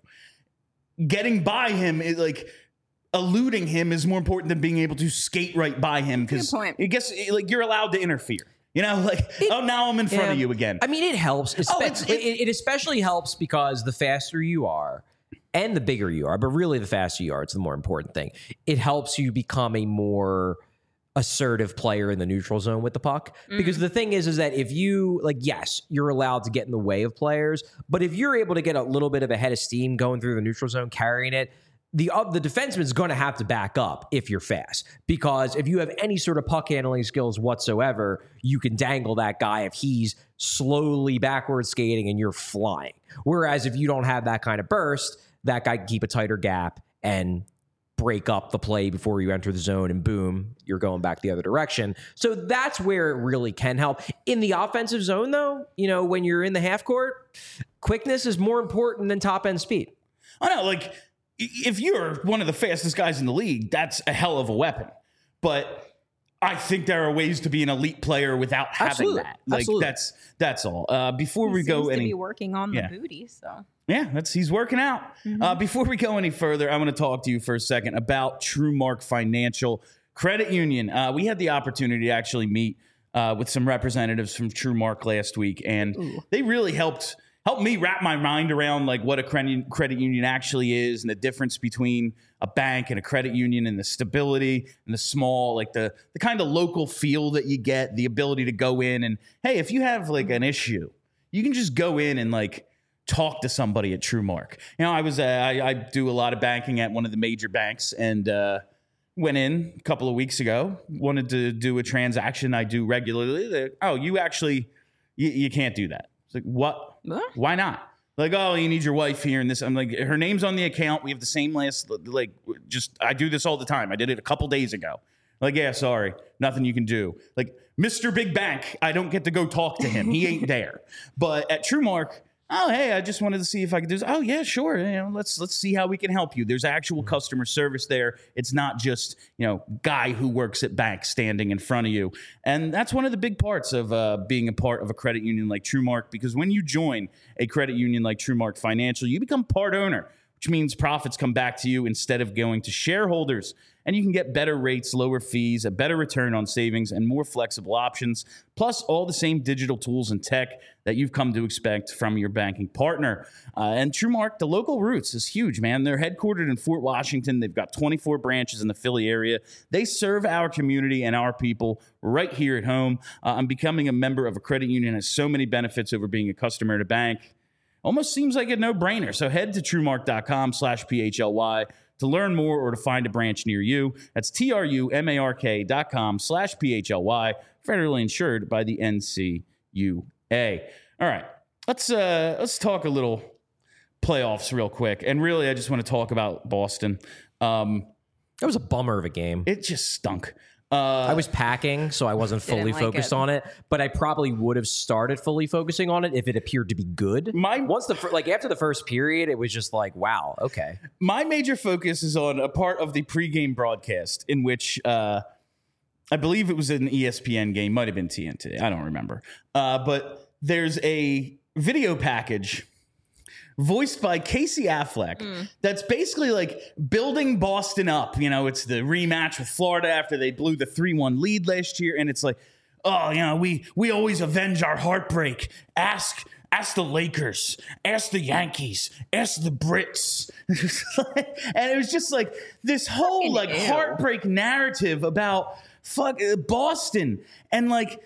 Getting by him is like, eluding him is more important than being able to skate right by him, because I guess like you're allowed to interfere. You know, like, it, oh, now I'm in front yeah. of you again. I mean, it helps. Oh, it's, it, it, it especially helps because the faster you are and the bigger you are, but really the faster you are, it's the more important thing. It helps you become a more assertive player in the neutral zone with the puck. Mm. Because the thing is, is that if you, like, yes, you're allowed to get in the way of players, but if you're able to get a little bit of a head of steam going through the neutral zone, carrying it, the uh, the defenseman is going to have to back up if you're fast, because if you have any sort of puck handling skills whatsoever, you can dangle that guy if he's slowly backwards skating and you're flying. Whereas if you don't have that kind of burst, that guy can keep a tighter gap and break up the play before you enter the zone, and boom, you're going back the other direction. So that's where it really can help. In the offensive zone, though, you know, when you're in the half court, quickness is more important than top end speed. I know, like, if you're one of the fastest guys in the league, that's a hell of a weapon. But I think there are ways to be an elite player without having Absolutely. that. Like, Absolutely. that's that's all. Uh, before he we go seems any, to be working on yeah. the booty, so yeah, that's he's working out. Mm-hmm. Uh, before we go any further, I want to talk to you for a second about TrueMark Financial Credit Union. Uh, we had the opportunity to actually meet uh, with some representatives from TrueMark last week, and Ooh. they really helped. Help me wrap my mind around like what a credit credit union actually is, and the difference between a bank and a credit union, and the stability and the small, like the the kind of local feel that you get, the ability to go in and, hey, if you have like an issue, you can just go in and like talk to somebody at TrueMark. You know, I was uh, I, I do a lot of banking at one of the major banks, and uh, went in a couple of weeks ago, wanted to do a transaction I do regularly. They're, oh, you actually you, you can't do that. It's like, what? Huh? Why not? Like, oh, you need your wife here and this. I'm like, her name's on the account. We have the same last, like, just, I do this all the time. I did it a couple days ago. Like, yeah, sorry. Nothing you can do. Like, Mister Big Bank, I don't get to go talk to him. He ain't there. But at TrueMark, oh, hey, I just wanted to see if I could do this. Oh, yeah, sure. You know, let's let's see how we can help you. There's actual customer service there. It's not just, you know, guy who works at bank standing in front of you. And that's one of the big parts of uh, being a part of a credit union like TrueMark, because when you join a credit union like TrueMark Financial, you become part owner, which means profits come back to you instead of going to shareholders. And you can get better rates, lower fees, a better return on savings, and more flexible options, plus all the same digital tools and tech that you've come to expect from your banking partner. Uh, and TrueMark, the local roots is huge, man. They're headquartered in Fort Washington. They've got twenty-four branches in the Philly area. They serve our community and our people right here at home. Uh, I'm becoming a member of a credit union has so many benefits over being a customer at a bank. Almost seems like a no-brainer. So head to truemark.com slash PHLY to learn more or to find a branch near you. That's T-R-U-M-A-R-K dot com slash P-H-L-Y, federally insured by the N C U A. All right, let's uh, let's talk a little playoffs real quick. And really, I just want to talk about Boston. Um, That was a bummer of a game. it just stunk. Uh, I was packing, so I wasn't Didn't fully like focused it. on it. But I probably would have started fully focusing on it if it appeared to be good. My- Once the fir- like after the first period, it was just like, wow, okay. My major focus is on a part of the pregame broadcast in which uh, I believe it was an E S P N game, might have been T N T. I don't remember. Uh, but there's a video package voiced by Casey Affleck Mm. that's basically like building Boston up. You know, it's the rematch with Florida after they blew the three one lead last year. And it's like, oh, you know, we we always avenge our heartbreak. Ask ask the Lakers, ask the Yankees, ask the Brits. And it was just like this whole Fucking like ew. heartbreak narrative about fuck uh, Boston. And like,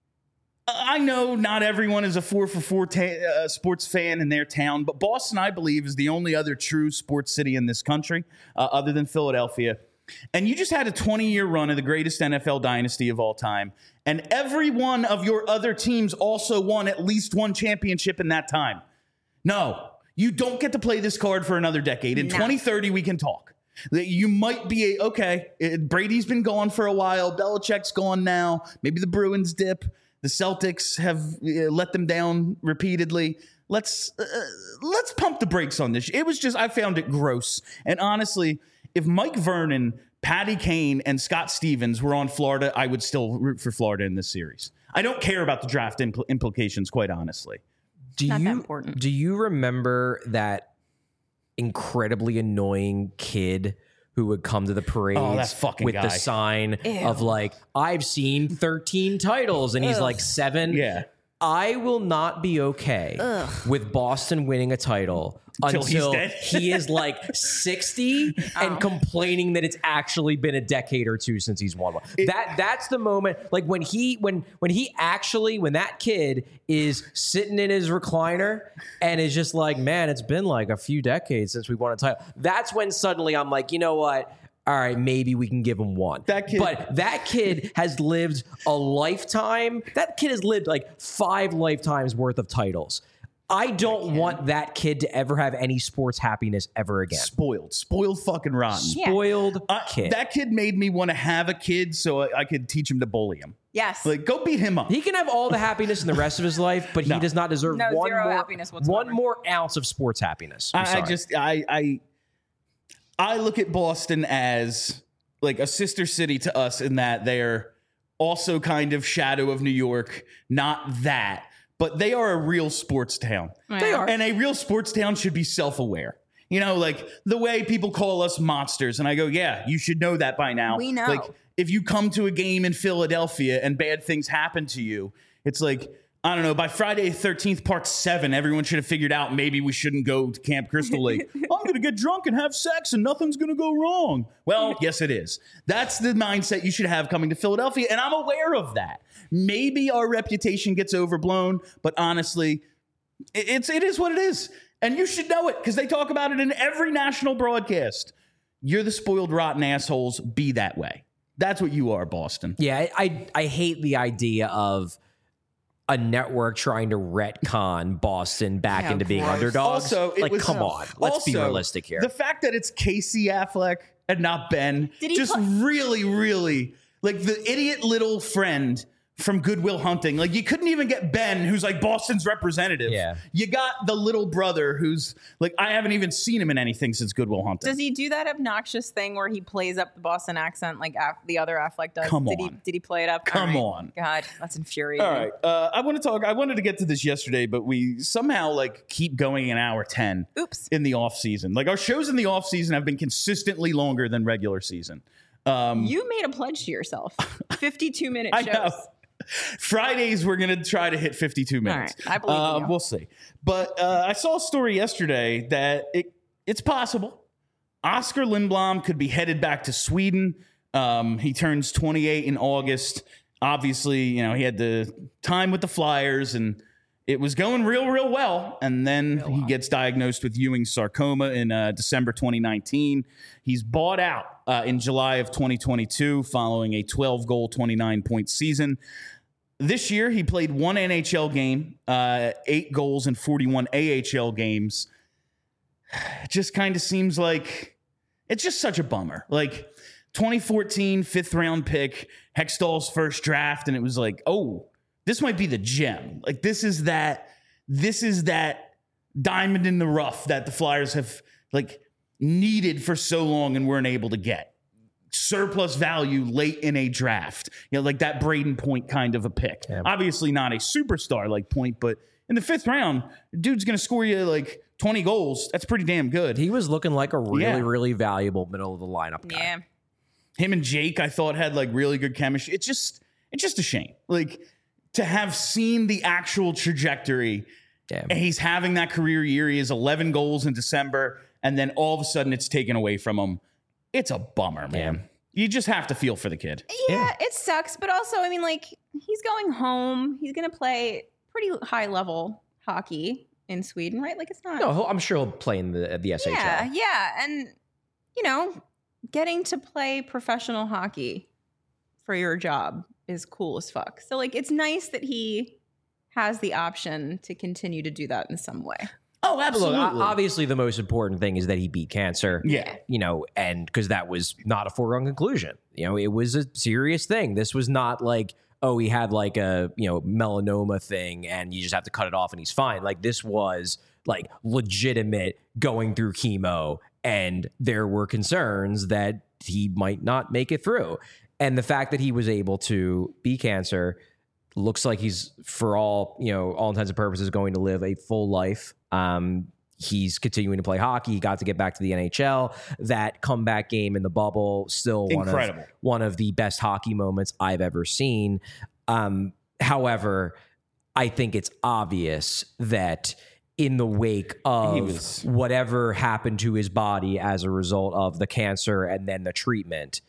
I know not everyone is a four for four ta- uh, sports fan in their town, but Boston, I believe, is the only other true sports city in this country, uh, other than Philadelphia. And you just had a twenty-year run of the greatest N F L dynasty of all time, and every one of your other teams also won at least one championship in that time. No, you don't get to play this card for another decade. In No. twenty thirty, we can talk. That you might be a, okay, it, Brady's been gone for a while. Belichick's gone now. Maybe the Bruins dip. The Celtics have uh, let them down repeatedly. Let's uh, let's pump the brakes on this. It was just, I found it gross. And honestly, if Mike Vernon, Patty Kane, and Scott Stevens were on Florida, I would still root for Florida in this series. I don't care about the draft impl- implications, quite honestly. Do Not you that important. do you remember that incredibly annoying kid who would come to the parades Oh, that fucking with guy. the sign Ew. of like, I've seen thirteen titles, and he's Ugh. like seven. Yeah. I will not be okay Ugh. with Boston winning a title Until until, he's dead. he is like sixty and Oh. complaining that it's actually been a decade or two since he's won one. that that's the moment, like when he when when he actually when that kid is sitting in his recliner and is just like, man, it's been like a few decades since we won a title. That's when suddenly I'm like, you know what? All right, maybe we can give him one. That kid- but that kid has lived a lifetime. That kid has lived like five lifetimes worth of titles. I don't want that kid to ever have any sports happiness ever again. Spoiled. Spoiled fucking rotten. Yeah. Spoiled Uh, kid. That kid made me want to have a kid so I, I could teach him to bully him. Yes. Like, go beat him up. He can have all the happiness in the rest of his life, but No. he does not deserve No, one zero more happiness whatsoever. one more ounce of sports happiness. I'm I, I sorry. just I I I look at Boston as like a sister city to us in that they're also kind of shadow of New York, not that, but they are a real sports town. They are. And a real sports town should be self-aware. You know, like the way people call us monsters. And I go, yeah, you should know that by now. We know. Like if you come to a game in Philadelphia and bad things happen to you, it's like, I don't know, by Friday the thirteenth, part seven, everyone should have figured out maybe we shouldn't go to Camp Crystal Lake. I'm going to get drunk and have sex and nothing's going to go wrong. Well, yes, it is. That's the mindset you should have coming to Philadelphia. And I'm aware of that. Maybe our reputation gets overblown, but honestly, it- it's, it is what it is. And you should know it because they talk about it in every national broadcast. You're the spoiled, rotten assholes. Be that way. That's what you are, Boston. Yeah, I, I I hate the idea of a network trying to retcon Boston back Yeah, into being gross. underdogs. Also, it like, was- come on, let's be also, realistic here. The fact that it's Casey Affleck and not Ben Did he just put- really, really like the idiot little friend from Goodwill Hunting. Like, you couldn't even get Ben, who's like Boston's representative. Yeah. You got the little brother who's like, I haven't even seen him in anything since Goodwill Hunting. Does he do that obnoxious thing where he plays up the Boston accent like Aff- the other Affleck does? Come did on. He, did he play it up? Come All right. on. God, that's infuriating. All right. Uh, I want to talk. I wanted to get to this yesterday, but we somehow like keep going an hour ten Oops. in the off season. Like, our shows in the off season have been consistently longer than regular season. Um, You made a pledge to yourself. fifty-two minute I shows. know. Fridays, we're going to try to hit fifty-two minutes. All right, I believe in uh, you. We'll see. But uh, I saw a story yesterday that it it's possible Oscar Lindblom could be headed back to Sweden. Um, he turns twenty-eight in August. Obviously, you know, he had the time with the Flyers and it was going real, real well. And then Real he well. gets diagnosed with Ewing sarcoma in uh, December twenty nineteen. He's bought out uh, in July of twenty twenty-two following a twelve goal, twenty-nine point season. This year, he played one N H L game, uh, eight goals in forty-one A H L games. It just kind of seems like it's just such a bummer. Like, twenty fourteen, fifth round pick, Hextall's first draft, and it was like, oh, this might be the gem. Like, this is that, this is that diamond in the rough that the Flyers have like needed for so long and weren't able to get. Surplus value late in a draft, you know, like that Braden Point kind of a pick. Yeah. Obviously not a superstar like Point, but in the fifth round, dude's going to score you like twenty goals. That's pretty damn good. He was looking like a really, Yeah. really valuable middle of the lineup guy. Yeah. Him and Jake, I thought, had like really good chemistry. It's just, it's just a shame. Like, to have seen the actual trajectory, Yeah. and he's having that career year. He has eleven goals in December, and then all of a sudden it's taken away from him. It's a bummer, man. Yeah. You just have to feel for the kid. Yeah, Yeah. it sucks. But also, I mean, like, he's going home. He's going to play pretty high level hockey in Sweden, right? Like, it's not. No, he'll- I'm sure he'll play in the the S H L. Yeah, yeah. And, you know, getting to play professional hockey for your job is cool as fuck. So, like, it's nice that he has the option to continue to do that in some way. Oh, Look, absolutely. o- obviously, the most important thing is that he beat cancer. Yeah. You know, and because that was not a foregone conclusion. You know, it was a serious thing. This was not like, oh, he had like a, you know, melanoma thing and you just have to cut it off and he's fine. Like, this was like legitimate going through chemo and there were concerns that he might not make it through. And the fact that he was able to beat cancer looks like he's, for all, you know, all intents and purposes, going to live a full life. Um, he's continuing to play hockey. He got to get back to the N H L. That comeback game in the bubble, still one of, Incredible. one of the best hockey moments I've ever seen. Um, however, I think it's obvious that in the wake of He was- whatever happened to his body as a result of the cancer and then the treatment,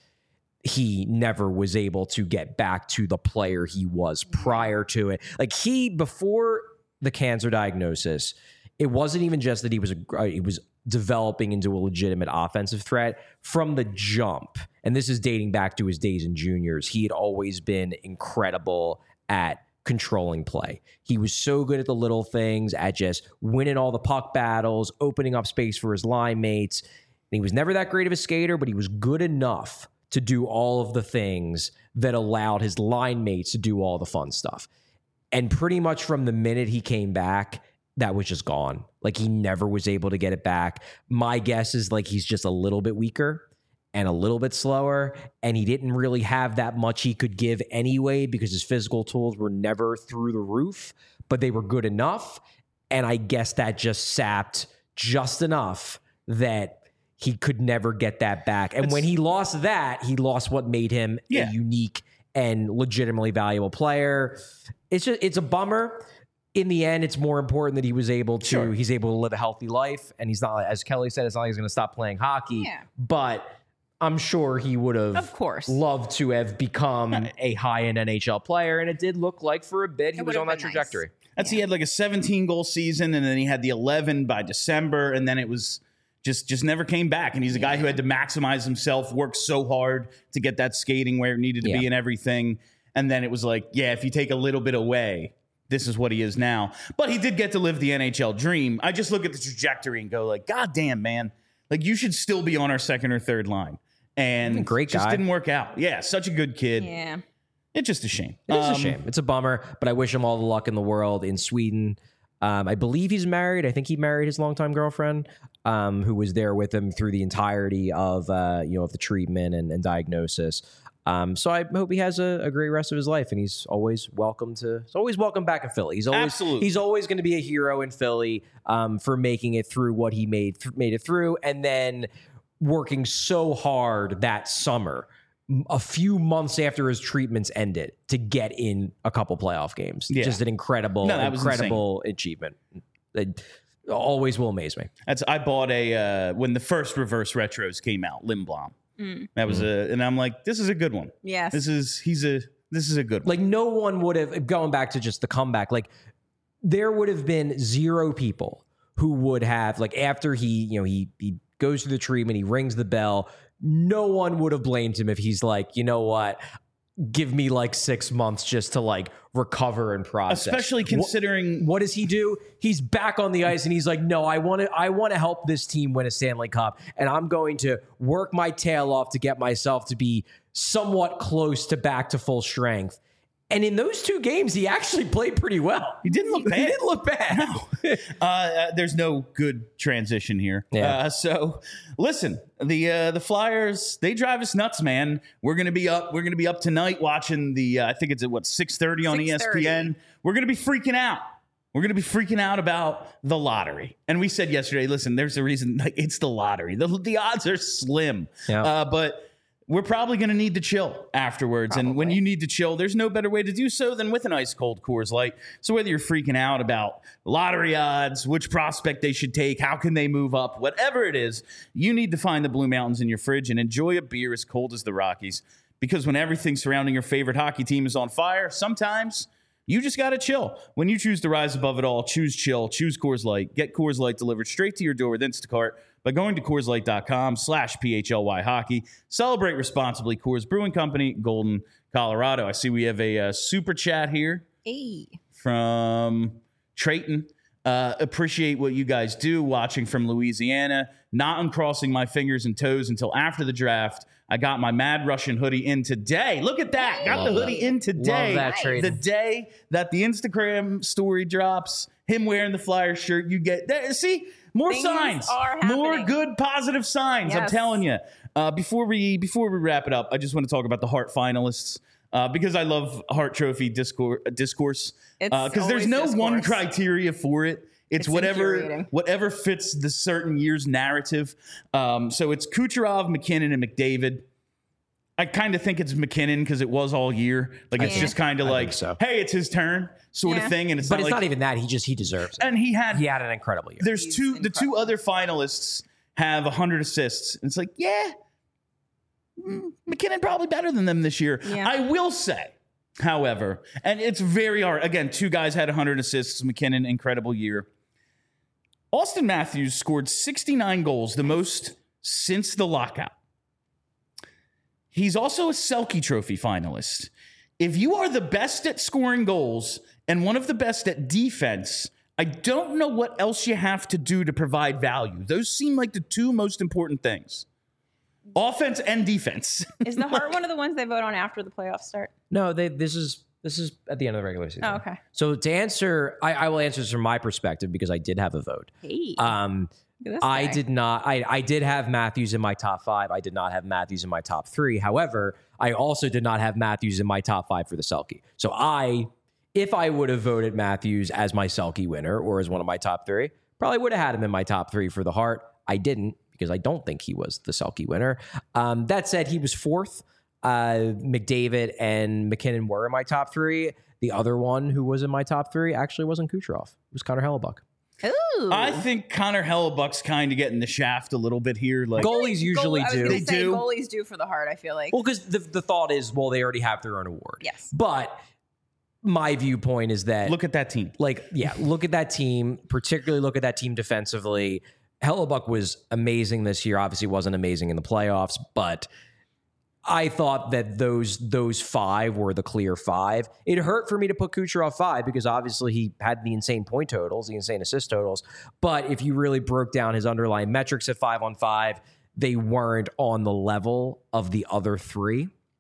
he never was able to get back to the player he was prior to it. Like, he, before the cancer diagnosis, it wasn't even just that he was a, he was developing into a legitimate offensive threat from the jump. And this is dating back to his days in juniors. He had always been incredible at controlling play. He was so good at the little things, at just winning all the puck battles, opening up space for his line mates. And he was never that great of a skater, but he was good enough to do all of the things that allowed his line mates to do all the fun stuff. And pretty much from the minute he came back, that was just gone. Like, he never was able to get it back. My guess is like he's just a little bit weaker and a little bit slower, and he didn't really have that much he could give anyway because his physical tools were never through the roof, but they were good enough. And I guess that just sapped just enough that he could never get that back. And It's- when he lost that, he lost what made him Yeah. a unique and legitimately valuable player. It's just, it's a bummer. In the end, it's more important that he was able to, Sure. he's able to live a healthy life. And he's not, as Kelly said, it's not like he's going to stop playing hockey. Yeah. But I'm sure he would have Of course. loved to have become a high-end N H L player. And it did look like for a bit he It was would on have that been nice. trajectory. That's he had like a seventeen goal season, and then he had the eleven by December, and then it was just just never came back. And he's a guy who had to maximize himself, work so hard to get that skating where it needed to Yeah. be and everything. And then it was like, yeah, if you take a little bit away, this is what he is now. But he did get to live the N H L dream. I just look at the trajectory and go like, God damn, man. Like, you should still be on our second or third line. And Great just guy. didn't work out. Yeah, such a good kid. Yeah. It's just a shame. It is Um, a shame. It's a bummer, but I wish him all the luck in the world in Sweden. Um, I believe he's married. I think he married his longtime girlfriend, um, who was there with him through the entirety of uh, you know of the treatment and, and diagnosis. Um, so I hope he has a, a great rest of his life, and he's always welcome to. He's always welcome back in Philly. He's always Absolutely. he's always going to be a hero in Philly um, for making it through what he made th- made it through, and then working so hard that summer, a few months after his treatments ended, to get in a couple playoff games. Yeah. Just an incredible, No, that was incredible achievement. It always will amaze me. That's I bought a uh, when the first reverse retros came out, Lindblom. Mm. That was a, and I'm like, this is a good one. Yes. This is he's a this is a good one. Like no one would have, going back to just the comeback, like there would have been zero people who would have, like after he, you know, he he goes through the treatment, he rings the bell. No one would have blamed him if he's like, you know what, give me like six months just to like recover and process. Especially considering What, what does he do? He's back on the ice and he's like, no, I want to, I want to help this team win a Stanley Cup, and I'm going to work my tail off to get myself to be somewhat close to back to full strength. And in those two games, he actually played pretty well. He didn't look bad. He didn't look bad. No. uh, uh, there's no good transition here. Yeah. Uh, so listen, the uh, the Flyers, they drive us nuts, man. We're gonna be up. We're gonna be up tonight watching the. Uh, I think it's at what six thirty on E S P N. We're gonna be freaking out. We're going to be freaking out about the lottery. And we said yesterday, listen, there's a reason. Like, it's the lottery. The, the odds are slim. Yeah. Uh, but we're probably going to need to chill afterwards. Probably. And when you need to chill, there's no better way to do so than with an ice cold Coors Light. So whether you're freaking out about lottery odds, which prospect they should take, how can they move up, whatever it is, you need to find the Blue Mountains in your fridge and enjoy a beer as cold as the Rockies. Because when everything surrounding your favorite hockey team is on fire, sometimes you just got to chill. When you choose to rise above it all, choose chill, choose Coors Light. Get Coors Light delivered straight to your door with Instacart by going to Coors Light dot com slash P H L Y hockey. Celebrate responsibly. Coors Brewing Company, Golden, Colorado. I see we have a uh, super chat here Hey. from Trayton. Uh, appreciate what you guys do watching from Louisiana. Not uncrossing my fingers and toes until after the draft. I got my Mad Russian hoodie in today. Look at that. Got Love the hoodie that. in today. Love that, Trayton. The day that the Instagram story drops, him wearing the Flyers shirt, you get there. See, more Things signs, are more happening. good positive signs. I'm Yes. telling you. Uh, before we before we wrap it up, I just want to talk about the Hart finalists uh, because I love Hart Trophy discourse. discourse It's because there's always no one discourse. criteria for it. It's, It's whatever infuriating. whatever fits the certain year's narrative. Um, so it's Kucherov, McKinnon, and McDavid. I kind of think it's McKinnon because it was all year. Like it's Yeah. just kind of I like, think so. hey, it's his turn, sort Yeah. of thing. And it's But not it's like, not even that. He just, he deserves it. and he had He had an incredible year. there's He's two the two incredible. other finalists have one hundred assists. And it's like, yeah, mm, McKinnon probably better than them this year. Yeah. I will say, however, and it's very hard. Again, two guys had one hundred assists. McKinnon, incredible year. Austin Matthews scored sixty-nine goals, the most since the lockout. He's also a Selke Trophy finalist. If you are the best at scoring goals and one of the best at defense, I don't know what else you have to do to provide value. Those seem like the two most important things. Offense and defense. Is the Hart one of the ones they vote on after the playoffs start? No, they, this is this is at the end of the regular season. Oh, okay. So to answer, I, I will answer this from my perspective because I did have a vote. Hey. Um, Look at this I guy. did not. I, I did have Matthews in my top five. I did not have Matthews in my top three. However, I also did not have Matthews in my top five for the Selke. So I, if I would have voted Matthews as my Selke winner or as one of my top three, probably would have had him in my top three for the Hart. I didn't because I don't think he was the Selke winner. Um, that said, he was fourth. Uh, McDavid and McKinnon were in my top three. The other one who was in my top three actually wasn't Kucherov. It was Connor Hellebuck. Ooh. I think Connor Hellebuck's kind of getting the shaft a little bit here. Like, Goalies usually Goal- I was do. gonna They say do. Goalies do for the Hart. I feel like. Well, because the, the thought is, well, they already have their own award. Yes. But my viewpoint is that, look at that team. like, yeah, look at that team, particularly look at that team defensively. Hellebuck was amazing this year. Obviously wasn't amazing in the playoffs, but I thought that those those five were the clear five. It hurt for me to put Kucherov five because obviously he had the insane point totals, the insane assist totals. But if you really broke down his underlying metrics at five on five, they weren't on the level of the other three.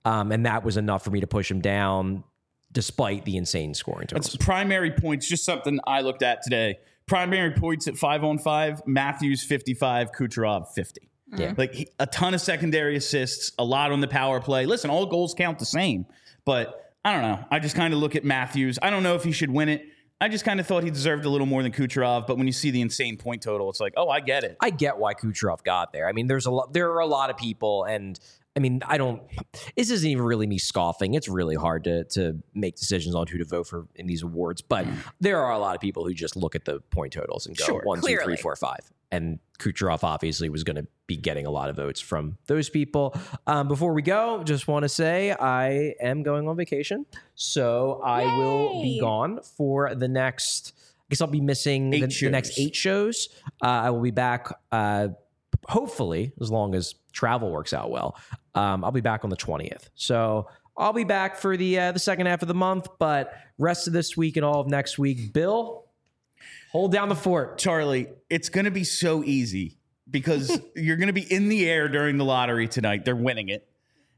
Um, and that was enough for me to push him down despite the insane scoring totals. That's primary points, just something I looked at today. Primary points at five on five, Matthews fifty-five, Kucherov fifty. Yeah. Like he, a ton of secondary assists, a lot on the power play. Listen, all goals count the same, but I don't know. I just kind of look at Matthews. I don't know if he should win it. I just kind of thought he deserved a little more than Kucherov, but when you see the insane point total, it's like, oh, I get it. I get why Kucherov got there. I mean, there's a lot. There are a lot of people, and I mean, I don't. This isn't even really me scoffing. It's really hard to to make decisions on who to vote for in these awards. But there are a lot of people who just look at the point totals and go Sure, one, two, clearly. three, four, five. And Kucherov obviously was going to be getting a lot of votes from those people. Um, before we go, just want to say I am going on vacation, so I will be Yay. gone for the next. I guess I'll be missing Eight the, the shows. next eight shows. Uh, I will be back. Uh, hopefully, as long as travel works out well, um, I'll be back on the twentieth. So I'll be back for the uh, the second half of the month, but rest of this week and all of next week, Bill, hold down the fort. Charlie, it's going to be so easy because you're going to be in the air during the lottery tonight. They're winning it.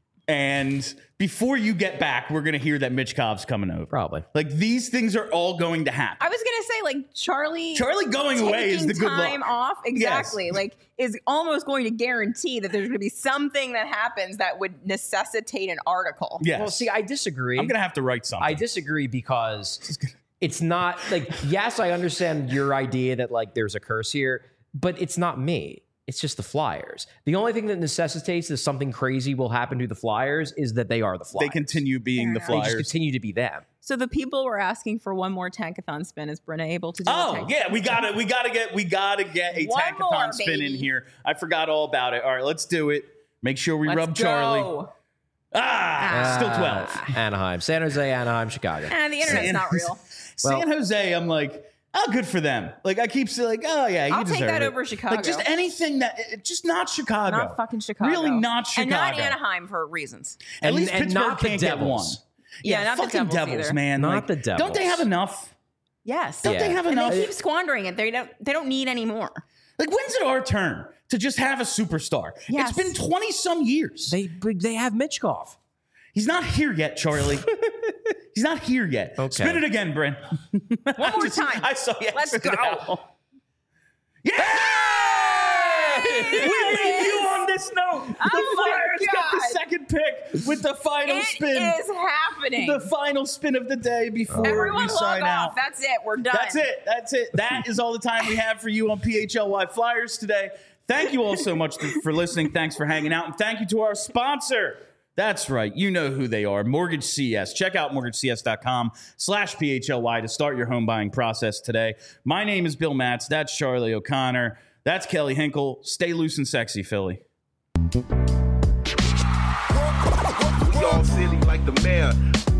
And before you get back, we're going to hear that Michkov's coming over. Probably. Like, these things are all going to happen. I was gonna say, like, Charlie. Charlie going away is the taking good time luck. off, exactly. Like, is almost going to guarantee that there's going to be something that happens that would necessitate an article. Yes. Well, see, I disagree. I'm going to have to write something. I disagree because it's not like, yes, I understand your idea that like there's a curse here, but it's not me. It's just the Flyers. The only thing that necessitates that something crazy will happen to the Flyers is that they are the Flyers. They continue being the Fair enough. They just Flyers. continue to be them. So the people were asking for one more tankathon spin. Is Brenna able to do? a Oh tankathon yeah, we spin? got to We got to get. We got to get a One tankathon more, spin in baby. here. I forgot all about it. All right, let's do it. Make sure we Let's rub Charlie. go. Ah, still twelve. Uh, Anaheim, San Jose, Anaheim, Chicago. And the internet's San- not real. San Jose, I'm like, oh, good for them. Like I keep saying, like, oh yeah, you I'll take deserve that it. over Chicago. Like just anything that, it- just not Chicago. Not fucking Chicago. Really not Chicago. And not Anaheim for reasons. At And- least and Pittsburgh not the can't get one. Devils. Yeah, not the fucking Devils either. man. Not Like, the Don't they Devils. have enough? Yes. Don't they Yeah. have And enough? they keep squandering it. They don't. They don't need any more. Like when's it our turn to just have a superstar? Yes. It's been twenty some years. They they have Michkov. He's not here yet, Charlie. He's not here yet. Okay. Spin it again, Bryn. One more time. I saw you. Let's answer go. now. Yeah! We leave you on this note. The Oh my Flyers get the God. second pick with the final It spin. is happening. The final spin of the day before Everyone we log sign off. out. That's it. We're done. That's it. That's it. That is all the time we have for you on P H L Y Flyers today. Thank you all so much for listening. Thanks for hanging out. And thank you to our sponsor. That's right. You know who they are. Mortgage C S. Check out mortgage c s dot com slash P H L Y to start your home buying process today. My name is Bill Matz. That's Charlie O'Connor. That's Kelly Hinkle. Stay loose and sexy, Philly. We all silly like the mayor.